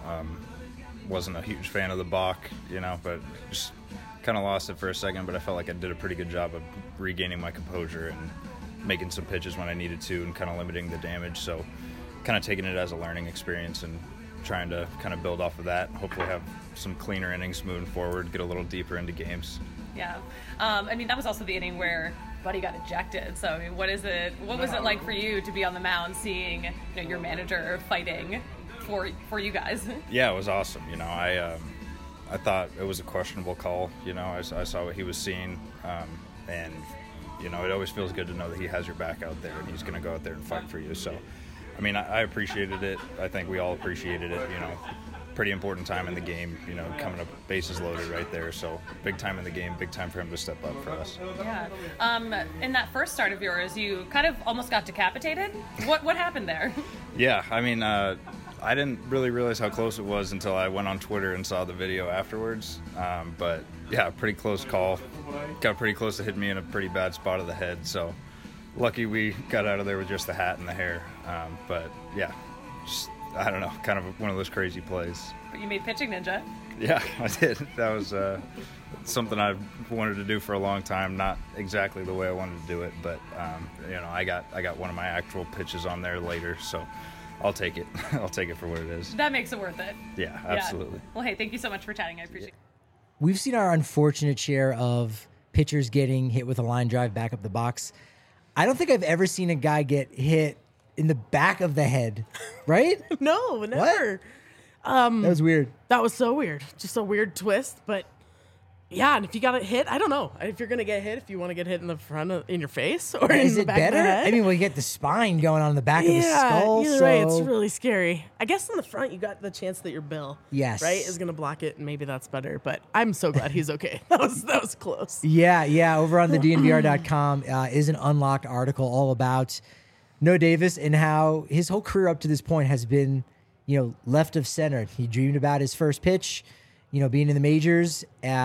wasn't a huge fan of the balk, but just kind of lost it for a second, but I felt like I did a pretty good job of regaining my composure and making some pitches when I needed to and kind of limiting the damage. So kind of taking it as a learning experience and trying to kind of build off of that, hopefully have some cleaner innings moving forward, get a little deeper into games. Yeah. That was also the inning where Buddy got ejected. So, what was it like for you to be on the mound seeing your manager fighting for you guys? Yeah, it was awesome. I thought it was a questionable call. I saw what he was seeing, and it always feels good to know that he has your back out there and he's going to go out there and fight for you. So, I appreciated it. I think we all appreciated it. pretty important time in the game, you know, coming up bases loaded right there. So big time in the game, big time for him to step up for us. Yeah. In that first start of yours, you kind of almost got decapitated. What happened there? Yeah, I mean, I didn't really realize how close it was until I went on Twitter and saw the video afterwards. But yeah, pretty close call. Got pretty close to hitting me in a pretty bad spot of the head. So lucky we got out of there with just the hat and the hair. But yeah, just, I don't know, kind of one of those crazy plays. But you made Pitching Ninja. Yeah, I did. That was something I've wanted to do for a long time. Not exactly the way I wanted to do it, but you know, I got one of my actual pitches on there later, so I'll take it. I'll take it for what it is. That makes it worth it. Yeah, absolutely. Yeah. Well, hey, thank you so much for chatting. I appreciate it. We've seen our unfortunate share of pitchers getting hit with a line drive back up the box. I don't think I've ever seen a guy get hit in the back of the head, right? No, never. That was weird. That was so weird. Just a weird twist, but yeah. And if you got it hit, I don't know if you're gonna get hit. If you want to get hit in the front in your face or Is in the it back better? of the head. I mean, we get the spine going on in the back of the skull. Either way, it's really scary. I guess in the front, you got the chance that your bill, Yes. right, is gonna block it, and maybe that's better. But I'm so glad he's okay. That was close. Yeah. Over on the DNVR.com is an unlocked article all about Noah Davis and how his whole career up to this point has been, you know, left of center. He dreamed about his first pitch, you know, being in the majors.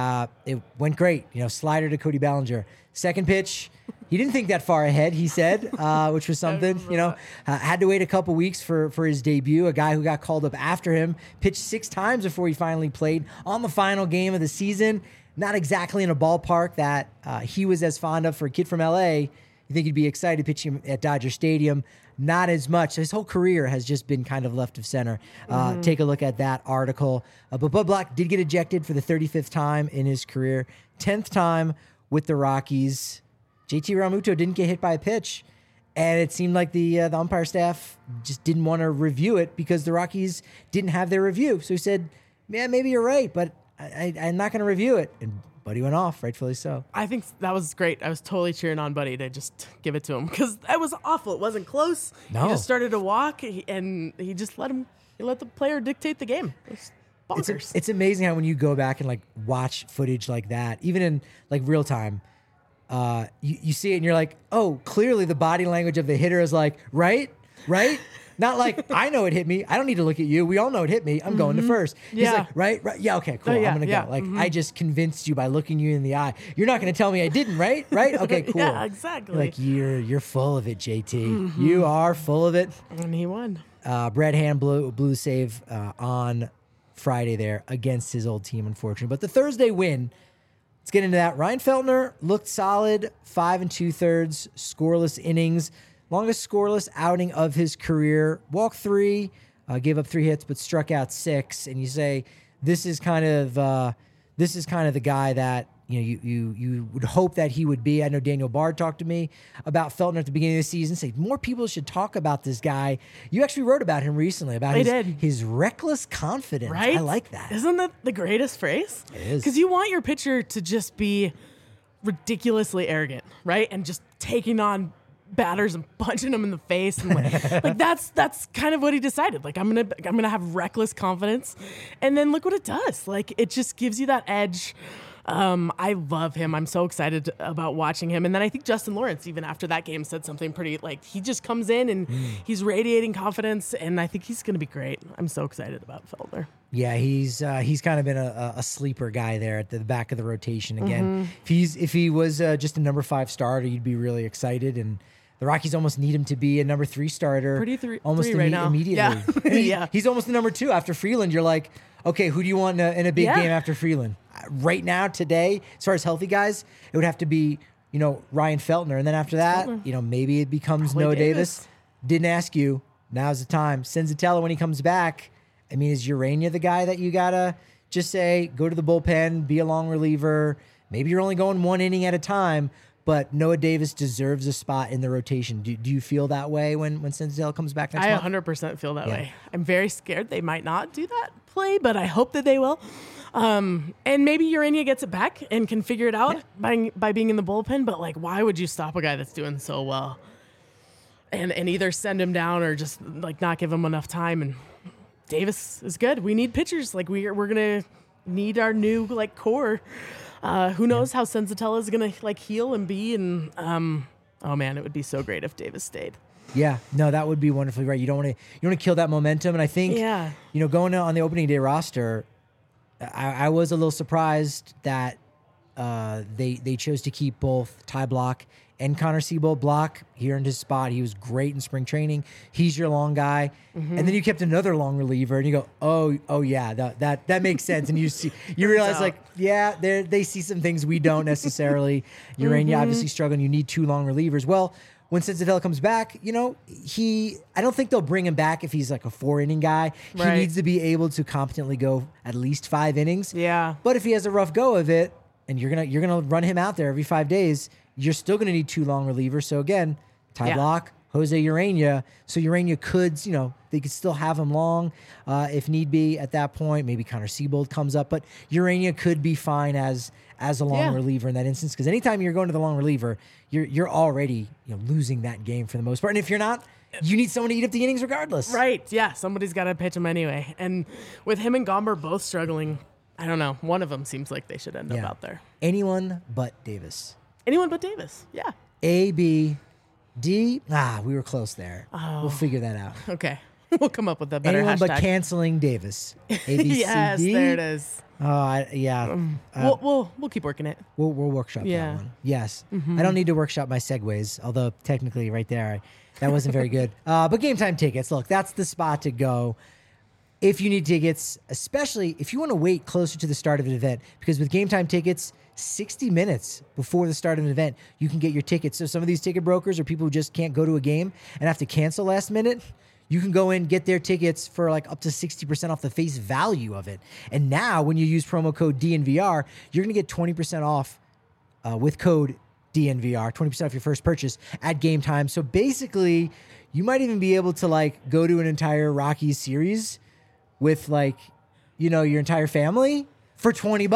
It went great. You know, slider to Cody Bellinger. Second pitch, he didn't think that far ahead, he said, which was something. You know, had to wait a couple weeks for his debut. A guy who got called up after him, pitched 6 times before he finally played on the final game of the season. Not exactly in a ballpark that he was as fond of for a kid from L.A. You think he'd be excited pitching at Dodger Stadium. Not as much. His whole career has just been kind of left of center. Take a look at that article. But Bud Black did get ejected for the 35th time in his career. 10th time with the Rockies. JT Realmuto didn't get hit by a pitch. And it seemed like the umpire staff just didn't want to review it because the Rockies didn't have their review. So he said, yeah, maybe you're right, but I'm not going to review it. And Buddy went off, rightfully so. I think that was great. I was totally cheering on Buddy to just give it to him because that was awful. It wasn't close. No. He just started to walk, and he just let the player dictate the game. It was bonkers. It's amazing how when you go back and like watch footage like that, even in like real time, you see it and you're like, oh, clearly the body language of the hitter is like, right? Not like, I know it hit me. I don't need to look at you. We all know it hit me. I'm going to first. He's Yeah. like, right? Yeah, okay, cool. yeah, I'm going to yeah, go. Like, I just convinced you by looking you in the eye. You're not going to tell me I didn't, right? Okay, cool. Yeah, exactly. Like, you're full of it, JT. You are full of it. And he won. Brad Hand blew the save on Friday there against his old team, unfortunately. But the Thursday win, let's get into that. Ryan Feltner looked solid, 5 2/3 scoreless innings. Longest scoreless outing of his career. Walked 3, gave up 3 hits, but struck out 6. And you say this is kind of the guy that you would hope that he would be. I know Daniel Bard talked to me about Feltner at the beginning of the season. Say more people should talk about this guy. You actually wrote about him recently about his reckless confidence. Right? I like that. Isn't that the greatest phrase? It is. Because you want your pitcher to just be ridiculously arrogant, right? And just taking on batters and punching them in the face, and like that's kind of what he decided. Like I'm gonna have reckless confidence, and then look what it does. Like it just gives you that edge. I love him. I'm so excited about watching him. And then I think Justin Lawrence, even after that game, said something pretty like he just comes in and he's radiating confidence, and I think he's gonna be great. I'm so excited about Feltner. Yeah, he's kind of been a sleeper guy there at the back of the rotation. Again, if he was just a number 5 starter, you'd be really excited. And the Rockies almost need him to be a number 3 starter. Almost three right now. Immediately. Yeah. And Yeah. He's almost the number 2 after Freeland. You're like, okay, who do you want in a big game after Freeland? Right now, today, as far as healthy guys, it would have to be, Ryan Feltner. And then after that, maybe it becomes Probably Noah Davis. Didn't ask you. Now's the time. Senzatella, when he comes back, I mean, is Urania the guy that you got to just say, go to the bullpen, be a long reliever? Maybe you're only going 1 inning at a time, but Noah Davis deserves a spot in the rotation. Do you feel that way when Senzatella comes back next month? I 100% feel that way. I'm very scared they might not do that play, but I hope that they will. And maybe Urania gets it back and can figure it out by being in the bullpen, but like, why would you stop a guy that's doing so well? And either send him down or just like not give him enough time. And Davis is good. We need pitchers. Like we're gonna need our new like core. Who knows how Senzatella is gonna like heal and be, and oh man, it would be so great if Davis stayed. Yeah, no, that would be wonderfully right. You don't want to kill that momentum, and I think going on the opening day roster, I was a little surprised that they chose to keep both Ty Block and Connor Siebold. Block, he earned his spot. He was great in spring training. He's your long guy, and then you kept another long reliever, and you go, oh yeah, that makes sense. And you realize like, yeah, they see some things we don't necessarily. Urania obviously struggling. You need 2 long relievers. Well, when Senzatella comes back, I don't think they'll bring him back if he's like a 4-inning guy. He needs to be able to competently go at least 5 innings. Yeah. But if he has a rough go of it, and you're gonna run him out there every 5 days, you're still gonna need 2 long relievers. So again, Ty Block, Jose Urania. So Urania could, they could still have him long if need be at that point. Maybe Connor Siebold comes up, but Urania could be fine as a long reliever in that instance. Because anytime you're going to the long reliever, you're already losing that game for the most part. And if you're not, you need someone to eat up the innings regardless. Right? Yeah, somebody's got to pitch him anyway. And with him and Gomber both struggling, I don't know. One of them seems like they should end up out there. Anyone but Davis. Anyone but Davis. Yeah. A, B, D. We were close there. We'll figure that out. Okay. We'll come up with a better Anyone hashtag. but canceling Davis. A, B, yes, C, D. there it is. We'll We'll keep working it. We'll workshop that one. Yes. I don't need to workshop my segues, although technically right there, that wasn't very good. But game time tickets, look, that's the spot to go if you need tickets, especially if you want to wait closer to the start of an event, because with game time tickets, 60 minutes before the start of an event, you can get your tickets. So some of these ticket brokers or people who just can't go to a game and have to cancel last minute, you can go in, get their tickets for like up to 60% off the face value of it. And now when you use promo code DNVR, you're going to get 20% off with code DNVR, 20% off your first purchase at Game Time. So basically, you might even be able to like go to an entire Rockies series with like, your entire family for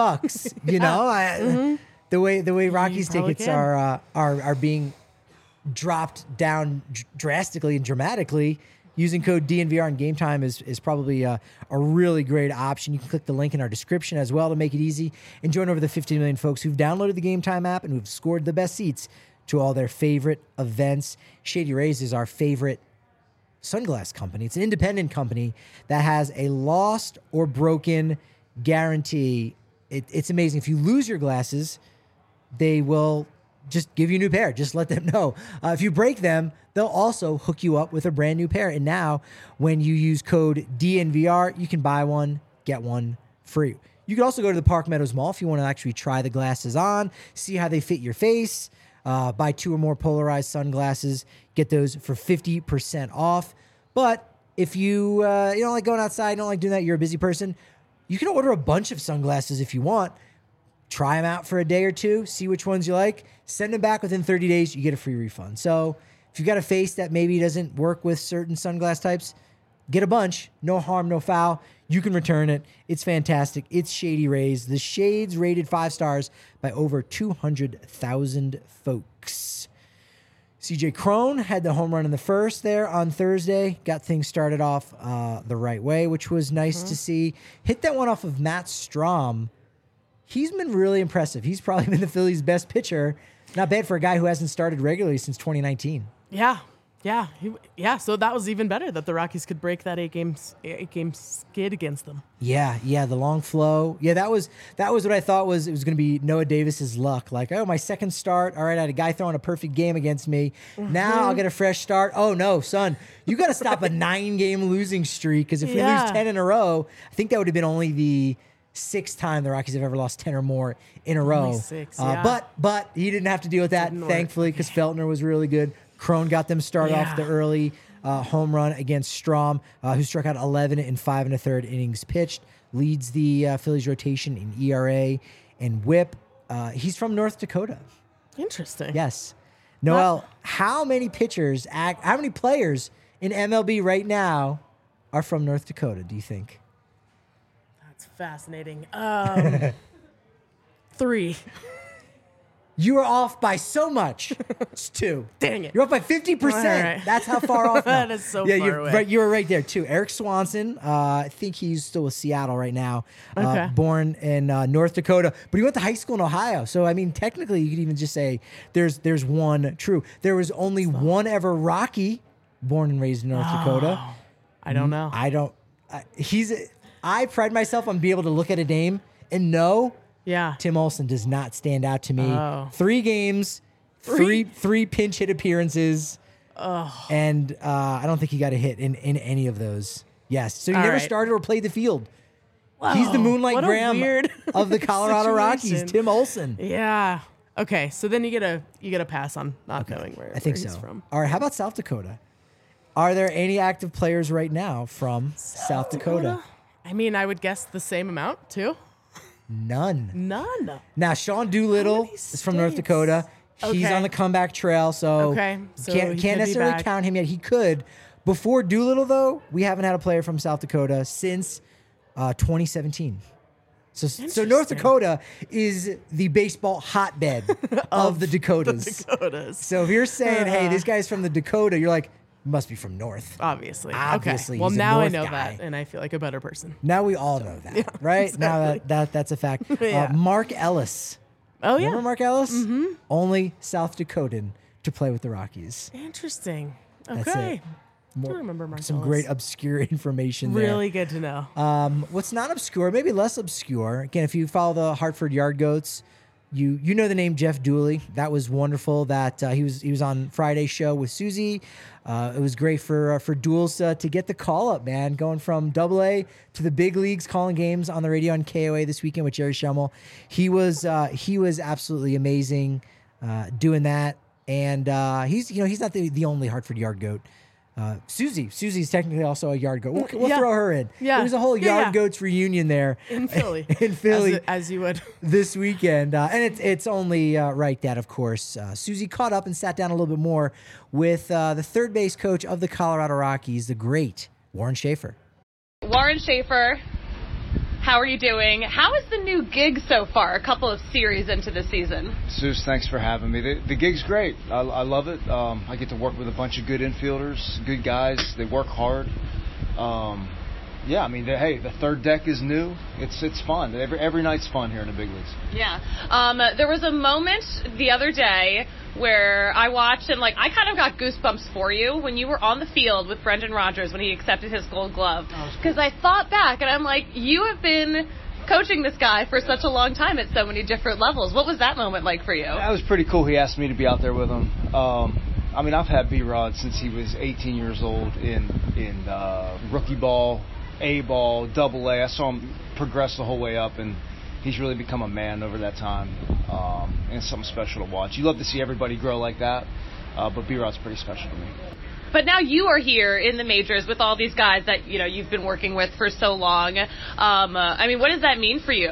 $20. The way Rockies tickets are being dropped down drastically and dramatically, using code DNVR in Game Time is probably a really great option. You can click the link in our description as well to make it easy and join over the 15 million folks who've downloaded the Game Time app and who've scored the best seats to all their favorite events. Shady Rays is our favorite sunglass company. It's an independent company that has a lost or broken guarantee. It's amazing. If you lose your glasses, they will just give you a new pair. Just let them know. If you break them, they'll also hook you up with a brand new pair. And now, when you use code DNVR, you can buy one, get one free. You can also go to the Park Meadows Mall if you want to actually try the glasses on, see how they fit your face. Buy 2 or more polarized sunglasses. Get those for 50% off. But if you don't like going outside, don't like doing that, you're a busy person, you can order a bunch of sunglasses if you want. Try them out for a day or 2, see which ones you like, send them back within 30 days, you get a free refund. So if you've got a face that maybe doesn't work with certain sunglass types, get a bunch, no harm, no foul. You can return it. It's fantastic. It's Shady Rays. The shades rated 5 stars by over 200,000 folks. CJ Cron had the home run in the first there on Thursday. Got things started off the right way, which was nice to see. Hit that one off of Matt Strom. He's been really impressive. He's probably been the Phillies' best pitcher. Not bad for a guy who hasn't started regularly since 2019. Yeah. So that was even better that the Rockies could break that 8-game skid against them. Yeah, the long flow. Yeah, that was what I thought was it was going to be Noah Davis's luck. Like, oh, my second start. All right, I had a guy throwing a perfect game against me. Now I'll get a fresh start. Oh no, son, you got to stop a 9-game losing streak, because if we lose 10 in a row, I think that would have been only the 6th time the Rockies have ever lost 10 or more in a row. Only 6, yeah. But he didn't have to deal with that, thankfully, because Feltner was really good. Cron got them started off the early home run against Strom, who struck out 11 in 5 1/3 innings pitched, leads the Phillies rotation in ERA and WHIP. He's from North Dakota. Interesting. Yes. Noel, how many players in MLB right now are from North Dakota, do you think? That's fascinating. 3. You are off by so much. It's 2. Dang it. You're off by 50%. All right. That's how far off. That now. is so yeah, far you're away. Right, you were right there too. Eric Swanson. I think he's still with Seattle right now. Okay. Born in North Dakota, but he went to high school in Ohio. So I mean, technically, you could even just say there's one true. There was only one ever Rocky born and raised in North Dakota. I don't know. I pride myself on being able to look at a name and know. Yeah. Tim Olson does not stand out to me. Oh. 3 games, three pinch hit appearances, and I don't think he got a hit in any of those. Yes, so he All never right. started or played the field. Wow, He's the Moonlight what a Graham weird of the Colorado Rockies, situation. Tim Olson. Yeah. Okay, so then you get a pass on not knowing where, I think where so. he's from. All right, how about South Dakota? Are there any active players right now from South Dakota? I mean, I would guess the same amount too. None. None. Now, Sean Doolittle many is from North states? Dakota. He's Okay. on the comeback trail, so, Okay, so can't he could be necessarily back. count him yet. He could. Before Doolittle, though, we haven't had a player from South Dakota since 2017. So North Interesting. Dakota is the baseball hotbed of the Dakotas. Dakotas. So if you're saying, hey, this guy's from the Dakota, you're like, must be from North. Obviously. Obviously, Okay. Well, he's a now I North know guy. that, and I feel like a better person. Now we all know that, right? exactly. Now that's a fact. Yeah. Mark Ellis. Oh yeah. Remember Mark Ellis? Mm-hmm. Only South Dakotan to play with the Rockies. Interesting. That's Okay. it. I remember Marcellus. Some great obscure information there. Really good to know. What's not obscure, maybe less obscure. Again, if you follow the Hartford Yard Goats, you know the name Jeff Dooley. That was wonderful. That he was on Friday's show with Susie. It was great for Duels to get the call up, man, going from AA to the big leagues, calling games on the radio on KOA this weekend with Jerry Schemmel. He was absolutely amazing doing that, and he's not the only Hartford Yard Goat. Susie's technically also a Yard Goat. We'll Yeah. throw her in. Yeah. There was a whole Yeah, Yard yeah. Goats reunion there In Philly. in Philly As you would. this weekend, and it's only right that, of course, Susie caught up and sat down a little bit more with the third base coach of the Colorado Rockies, the great Warren Schaefer. Warren Schaefer, how are you doing? How is the new gig so far? A couple of series into the season. Zeus, thanks for having me. The gig's great. I love it. I get to work with a bunch of good infielders, good guys. They work hard. Yeah, I mean, the third deck is new. It's fun. Every night's fun here in the big leagues. Yeah. There was a moment the other day where I watched and I kind of got goosebumps for you when you were on the field with Brendan Rodgers when he accepted his Gold Glove. Because I thought back and I'm like, you have been coaching this guy for such a long time at so many different levels. What was that moment like for you? That was pretty cool. He asked me to be out there with him. I mean, I've had B-Rod since he was 18 years old in rookie ball, A ball, Double A. I saw him progress the whole way up, and he's really become a man over that time. And it's something special to watch. You love to see everybody grow like that, but B-Rod's pretty special to me. But now you are here in the majors with all these guys that you've been working with for so long. I mean, what does that mean for you?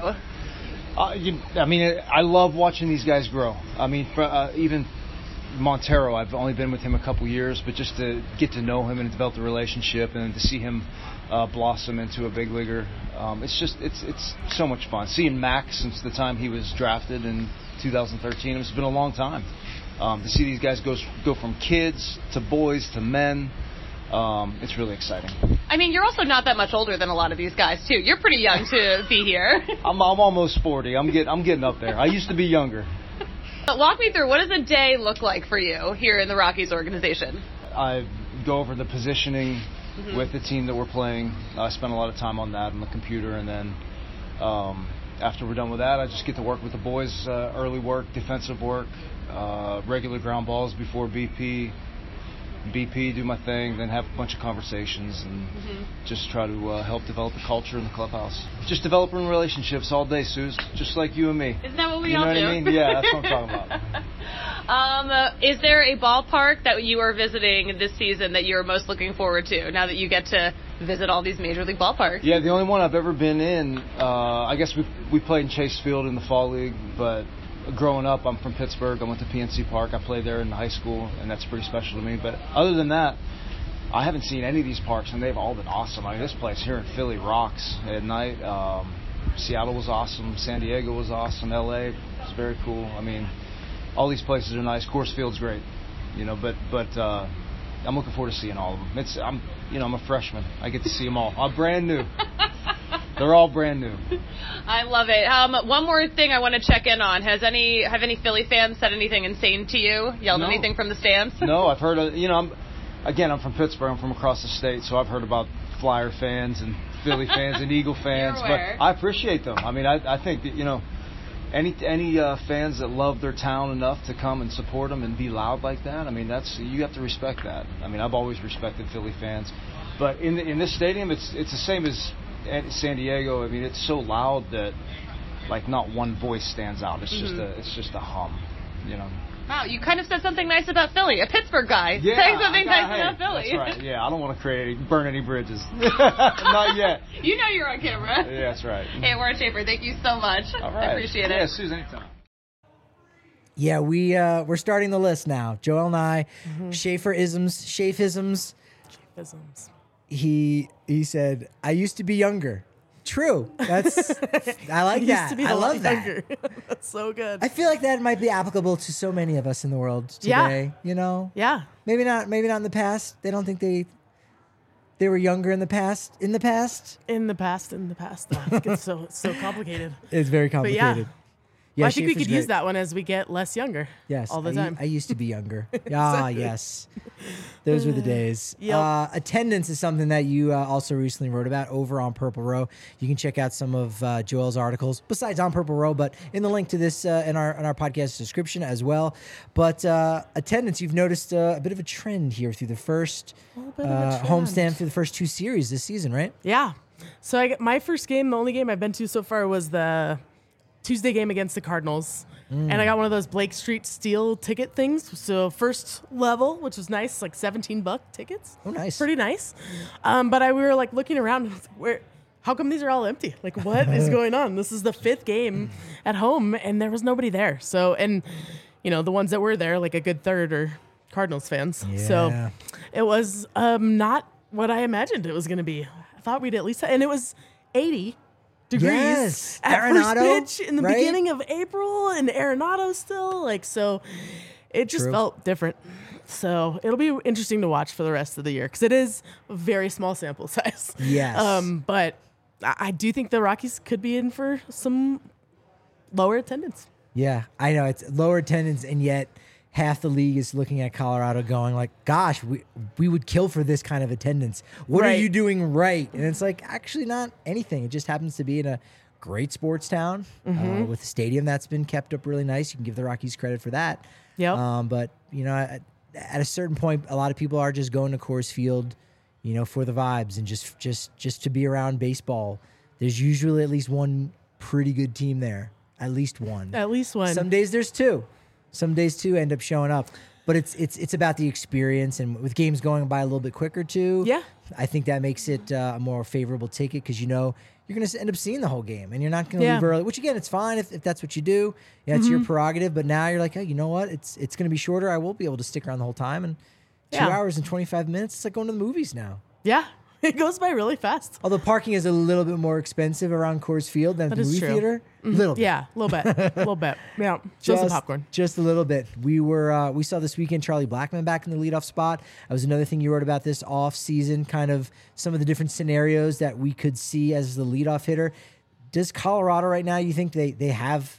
I love watching these guys grow. I mean, even Montero, I've only been with him a couple years, but just to get to know him and develop the relationship, and to see him blossom into a big leaguer, it's so much fun. Seeing Max since the time he was drafted in 2013, it's been a long time. To see these guys go from kids to boys to men, it's really exciting. I mean, you're also not that much older than a lot of these guys too. You're pretty young to be here. I'm almost 40. I'm getting up there. I used to be younger. Walk me through, what does a day look like for you here in the Rockies organization? I go over the positioning with the team that we're playing. I spend a lot of time on that on the computer, and then after we're done with that, I just get to work with the boys, early work, defensive work, regular ground balls before BP, do my thing, then have a bunch of conversations, and just try to help develop the culture in the clubhouse. Just developing relationships all day, Suze, just like you and me. Isn't that what we you all know do? what I mean? Yeah, that's what I'm talking about. Is there a ballpark that you are visiting this season that you're most looking forward to now that you get to visit all these major league ballparks? Yeah, the only one I've ever been in, I guess we played in Chase Field in the fall league, but growing up, I'm from Pittsburgh. I went to PNC Park. I played there in high school, and that's pretty special to me. But other than that, I haven't seen any of these parks, and they've all been awesome. I mean, this place here in Philly rocks at night. Seattle was awesome. San Diego was awesome. LA was very cool. I mean, all these places are nice. Coors Field's great, but I'm looking forward to seeing all of them. I'm a freshman. I get to see them all. I'm brand new. They're all brand new. I love it. One more thing I want to check in on. Have any Philly fans said anything insane to you? Yelled anything from the stands? No, I've heard I'm from Pittsburgh. I'm from across the state, so I've heard about Flyer fans and Philly fans and Eagle fans. But I appreciate them. I mean, I think that, any fans that love their town enough to come and support them and be loud like that, I mean, you have to respect that. I mean, I've always respected Philly fans. But in this stadium, it's the same as at San Diego. I mean, it's so loud that not one voice stands out. It's just a hum, Wow, you kind of said something nice about Philly. A Pittsburgh guy saying something nice about Philly. That's right. Yeah, I don't want to burn any bridges. Not yet. You know you're on camera. Yeah, that's right. Hey, Warren Schaefer, thank you so much. All right. I appreciate it. Yeah, Susan, anytime. Yeah, we're starting the list now. Joel and I, Schaefer-isms, Schaefe-isms. He said, I used to be younger. True. That's I like that. I love that. That's so good. I feel like that might be applicable to so many of us in the world today. Yeah. Maybe not in the past. They don't think they were younger in the past. In the past. I think it's so complicated. It's very complicated. But yeah. Well, I think we could use that one as we get less younger. Yes, all the time. I used to be younger. Yes. Those were the days. Yep. Attendance is something that you also recently wrote about over on Purple Row. You can check out some of Joel's articles, besides on Purple Row, but in the link to this in our podcast description as well. But attendance, you've noticed a bit of a trend here through the first homestand for the first two series this season, right? Yeah. So my first game, the only game I've been to so far, was the Tuesday game against the Cardinals. And I got one of those Blake Street Steel ticket things. So first level, which was nice, like $17 tickets. Oh, nice. Pretty nice. But we were looking around, how come these are all empty? What is going on? This is the fifth game at home and there was nobody there. So, and the ones that were there, like a good third are Cardinals fans. Yeah. So it was not what I imagined it was going to be. I thought we'd at least, and it was 80 degrees at Arenado, first pitch in the beginning of April, and Arenado still so it just felt different. So it'll be interesting to watch for the rest of the year because it is a very small sample size. Yes. But I do think the Rockies could be in for some lower attendance. Yeah, I know it's lower attendance, and yet half the league is looking at Colorado going gosh, we would kill for this kind of attendance. What are you doing right? And it's actually not anything. It just happens to be in a great sports town with a stadium that's been kept up really nice. You can give the Rockies credit for that. Yep. But, at a certain point, a lot of people are just going to Coors Field, for the vibes and just to be around baseball. There's usually at least one pretty good team there. At least one. At least one. Some days there's two. Some days too end up showing up, but it's about the experience, and with games going by a little bit quicker too. Yeah, I think that makes it a more favorable ticket because you're going to end up seeing the whole game, and you're not going to leave early. Which again, it's fine if that's what you do. Yeah, it's your prerogative. But now you're hey, you know what? It's going to be shorter. I will be able to stick around the whole time, and 2 hours and 25 minutes. It's like going to the movies now. Yeah. It goes by really fast. Although parking is a little bit more expensive around Coors Field than at the movie theater. Little bit. Yeah, a little bit. Yeah, just some popcorn. Just a little bit. We saw this weekend Charlie Blackmon back in the leadoff spot. That was another thing you wrote about this off season, kind of some of the different scenarios that we could see as the leadoff hitter. Does Colorado right now, you think they have,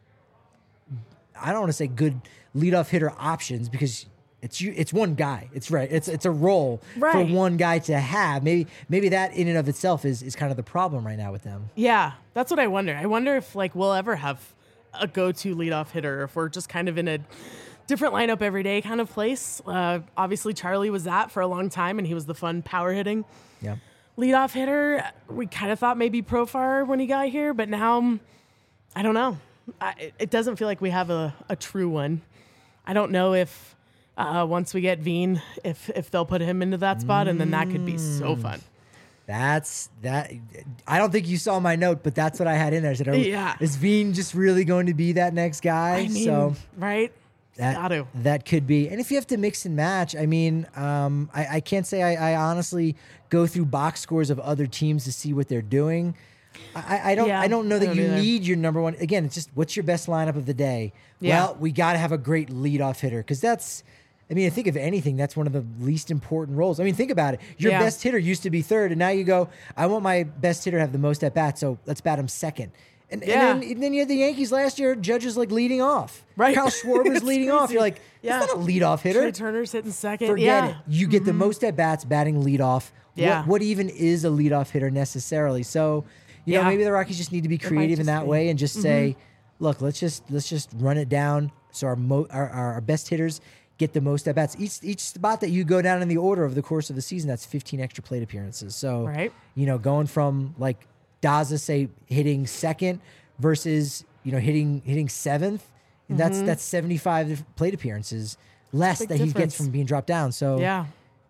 I don't want to say good leadoff hitter options because it's one guy. It's right. It's a role for one guy to have. Maybe that in and of itself is kind of the problem right now with them. Yeah, that's what I wonder. I wonder if we'll ever have a go-to leadoff hitter, if we're just kind of in a different lineup every day kind of place. Obviously, Charlie was that for a long time, and he was the fun power hitting leadoff hitter. We kind of thought maybe Profar when he got here, but now I don't know. It doesn't feel like we have a true one. I don't know if. Once we get Veen, if they'll put him into that spot, and then that could be so fun. That's that. I don't think you saw my note, but that's what I had in there. I said, is Veen just really going to be that next guy? I mean, right? That could be. And if you have to mix and match, I mean, I can't say I honestly go through box scores of other teams to see what they're doing. I don't know that you either. need your number one. Again, it's just what's your best lineup of the day. Yeah. Well, we got to have a great leadoff hitter because that's. I mean, I think if anything, that's one of the least important roles. I mean, think about it. Your Yeah. best hitter used to be third, and now you go, I want my best hitter to have the most at bats, so let's bat him second. And then you had the Yankees last year, Judge's like leading off. Right. Kyle Schwarber's It's leading off. crazy. You're like, Yeah. that's not a leadoff hitter. Trey Turner's hitting second. Forget yeah. it. You get the most at bats batting leadoff. Yeah. What even is a leadoff hitter necessarily? So, you know, Yeah. maybe the Rockies just need to be might creative in just that be. way and just say, look, let's just run it down so our best hitters get the most at bats. Each spot that you go down in the order over the course of the season, that's 15 extra plate appearances. So, Right. you know, going from like Daza say hitting second versus hitting seventh, and that's 75 plate appearances less Big that he gets difference. from being dropped down. So Yeah.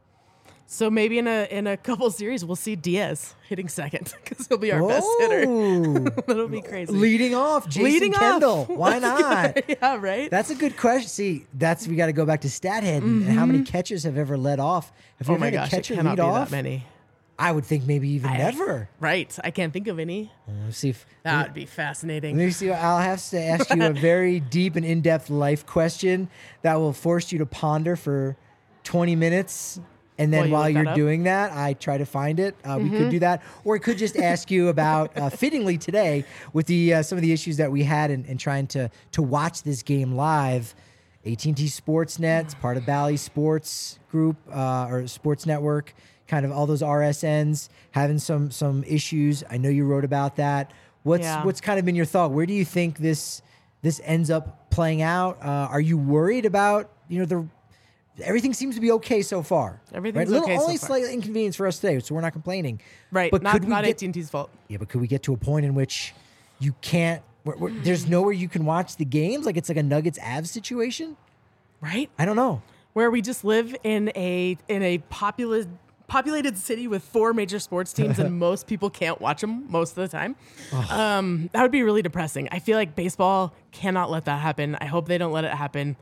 So maybe in a couple series we'll see Diaz hitting second because he'll be our best hitter. Oh. That'll be crazy. Leading off, Jason Leading off. Kendall. Why not? Yeah, right. That's a good question. See, we got to go back to Stathead and how many catchers have ever led off. Have you Oh ever my had gosh, a catcher it cannot lead be off? that many. I would think maybe even never. Right. I can't think of any. Let's see if That would be let fascinating. me see. I'll have to ask you a very deep and in-depth life question that will force you to ponder for 20 minutes. And then While you while look you're that up? doing that, I try to find it. We could do that, or I could just ask you about fittingly today with the some of the issues that we had in trying to watch this game live. AT&T Sportsnet, it's part of Bally Sports Group or Sports Network, kind of all those RSNs having some issues. I know you wrote about that. What's kind of been your thought? Where do you think this ends up playing out? Are you worried about everything seems to be okay so far. Everything's right? okay so Only far. slight inconvenience for us today, so we're not complaining. Right. But could we not get, AT&T's fault. Yeah, but could we get to a point in which you can't? There's nowhere you can watch the games. Like it's like a Nuggets Avs situation. Right. I don't know. Where we just live in a populated city with 4 major sports teams and most people can't watch them most of the time. That would be really depressing. I feel like baseball cannot let that happen. I hope they don't let it happen.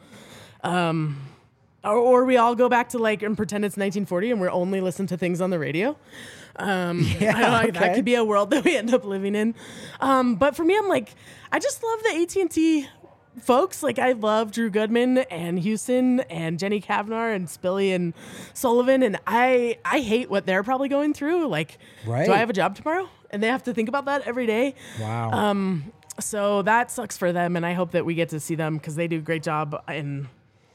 Or we all go back to and pretend it's 1940 and we're only listening to things on the radio. I don't know, okay. that could be a world that we end up living in. But for me, I'm I just love the AT&T folks. I love Drew Goodman and Houston and Jenny Kavanaugh and Spilly and Sullivan. And I hate what they're probably going through. Right. Do I have a job tomorrow? And they have to think about that every day. Wow. So that sucks for them. And I hope that we get to see them because they do a great job. And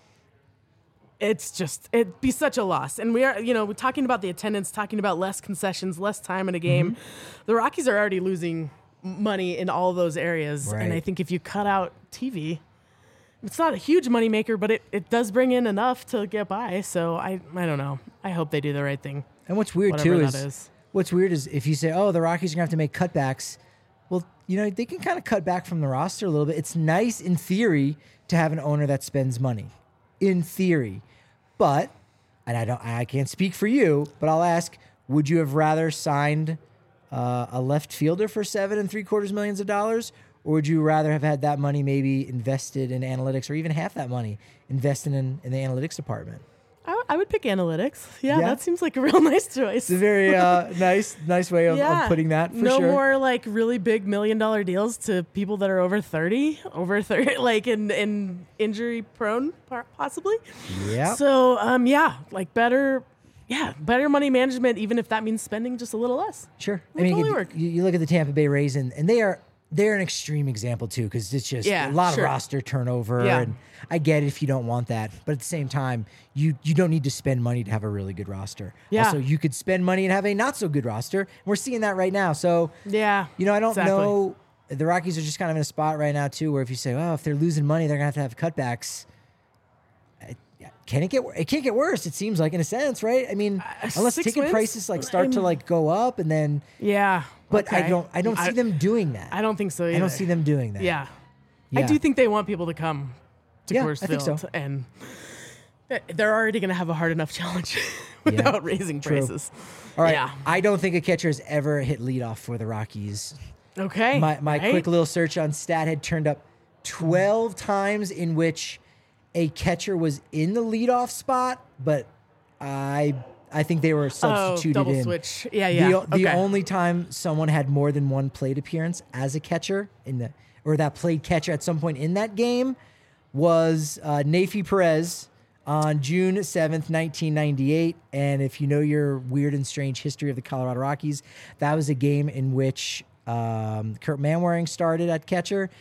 it'd be such a loss. And we are, we're talking about the attendance, talking about less concessions, less time in a game. The Rockies are already losing money in all those areas. Right. And I think if you cut out TV, it's not a huge moneymaker, but it does bring in enough to get by. So I don't know. I hope they do the right thing. And what's weird Whatever too that is. what's weird is if you say, oh, the Rockies are gonna have to make cutbacks. Well, they can kind of cut back from the roster a little bit. It's nice in theory to have an owner that spends money. In theory. But, and I can't speak for you, but I'll ask, would you have rather signed a left fielder for $7.75 million, or would you rather have had that money maybe invested in analytics, or even half that money invested in the analytics department? I would pick analytics. Yeah, Yeah? that seems like a real nice choice. It's a very nice way of putting that, for no sure. more really big $1 million deals to people that are over 30, in injury prone possibly. Yeah. So better money management, even if that means spending just a little less. Sure. It'll totally work. You look at the Tampa Bay Rays, and they're an extreme example too, because it's just a lot of roster turnover. Yeah. And I get it if you don't want that, but at the same time, you don't need to spend money to have a really good roster. Yeah. Also, you could spend money and have a not so good roster. And we're seeing that right now. So Yeah. I don't exactly. know. The Rockies are just kind of in a spot right now too, where if you say, oh, if they're losing money, they're gonna have cutbacks. It can't get worse. It seems like, in a sense, right? I mean, unless 6 ticket wins? prices start to go up, and then. Yeah. But okay. I don't see them doing that. I don't think so either. I don't see them doing that. Yeah. Yeah. I do think they want people to come to Yeah, Coors I think Field, so. and they're already going to have a hard enough challenge without raising true. prices. All right. Yeah. I don't think a catcher has ever hit leadoff for the Rockies. Okay. My right? quick little search on Stathead turned up 12 times in which a catcher was in the leadoff spot, but I I think they were substituted double in. switch. Yeah. The Okay. only time someone had more than one plate appearance as a catcher or that played catcher at some point in that game was Nafi Perez on June 7th, 1998. And if you know your weird and strange history of the Colorado Rockies, that was a game in which Kurt Manwaring started at catcher.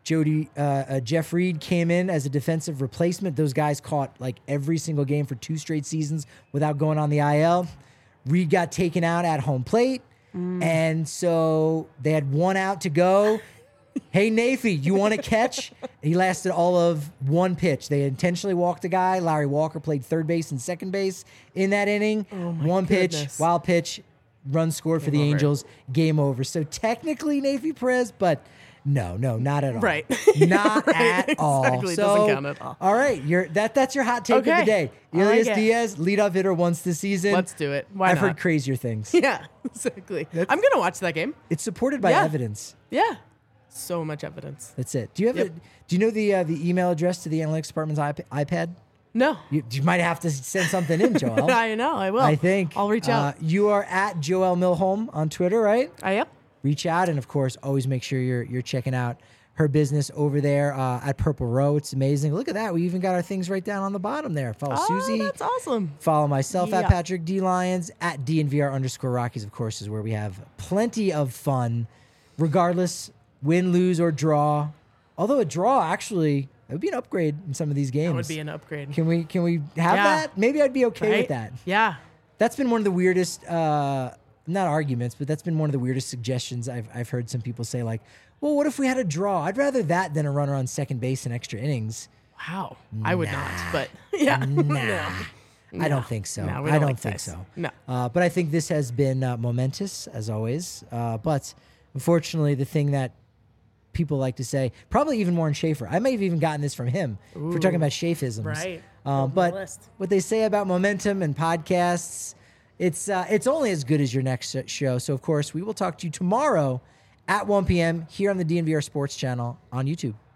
Jeff Reed came in as a defensive replacement. Those guys caught like every single game for 2 straight seasons without going on the IL. Reed got taken out at home plate. And so they had 1 out to go. Hey, Nafi, you want to catch? He lasted all of 1 pitch. They intentionally walked a guy. Larry Walker played third base and second base in that inning. Oh my 1 pitch, goodness. wild pitch, run scored for the over. Angels. Game over. So technically Nafi Perez, but no, not at all. Right. Not Right, at all. exactly. So, Doesn't count at all. All right, that's your hot take of the Okay. day. I like Elias it. Diaz, leadoff hitter once this season. Let's do it. Why I've not? heard crazier things. Yeah, exactly. I'm going to watch that game. It's supported by Yeah. evidence. Yeah. So much evidence. That's it. Do you have Yep. do you know the email address to the analytics department's iPad? No. You might have to send something in, Joel. I know. I will. I think I'll reach out. You are at Joel Milholm on Twitter, right? I am. Reach out, and of course, always make sure you're checking out her business over there at Purple Row. It's amazing. Look at that. We even got our things right down on the bottom there. Follow Susie. That's awesome. Follow myself at Yeah. Patrick D. Lyons at DNVR_Rockies, of course, is where we have plenty of fun, regardless, win, lose, or draw. Although a draw, actually, it would be an upgrade in some of these games. That would be an upgrade. Can we have Yeah. that? Maybe I'd be okay Right? with that. Yeah. That's been one of the weirdest, not arguments, but that's been one of the weirdest suggestions I've heard some people say, like, well, what if we had a draw? I'd rather that than a runner on second base in extra innings. Wow. I would not, but yeah. Nah. I don't think so. No, we I don't don't like think dice. so. No. But I think this has been momentous, as always. But unfortunately, the thing that people like to say, probably even Warren Schaefer, I may have even gotten this from him if we're talking about Schaefisms. Right. On the But list. what they say about momentum and podcasts, it's only as good as your next show. So, of course, we will talk to you tomorrow at 1 p.m. here on the DNVR Sports Channel on YouTube.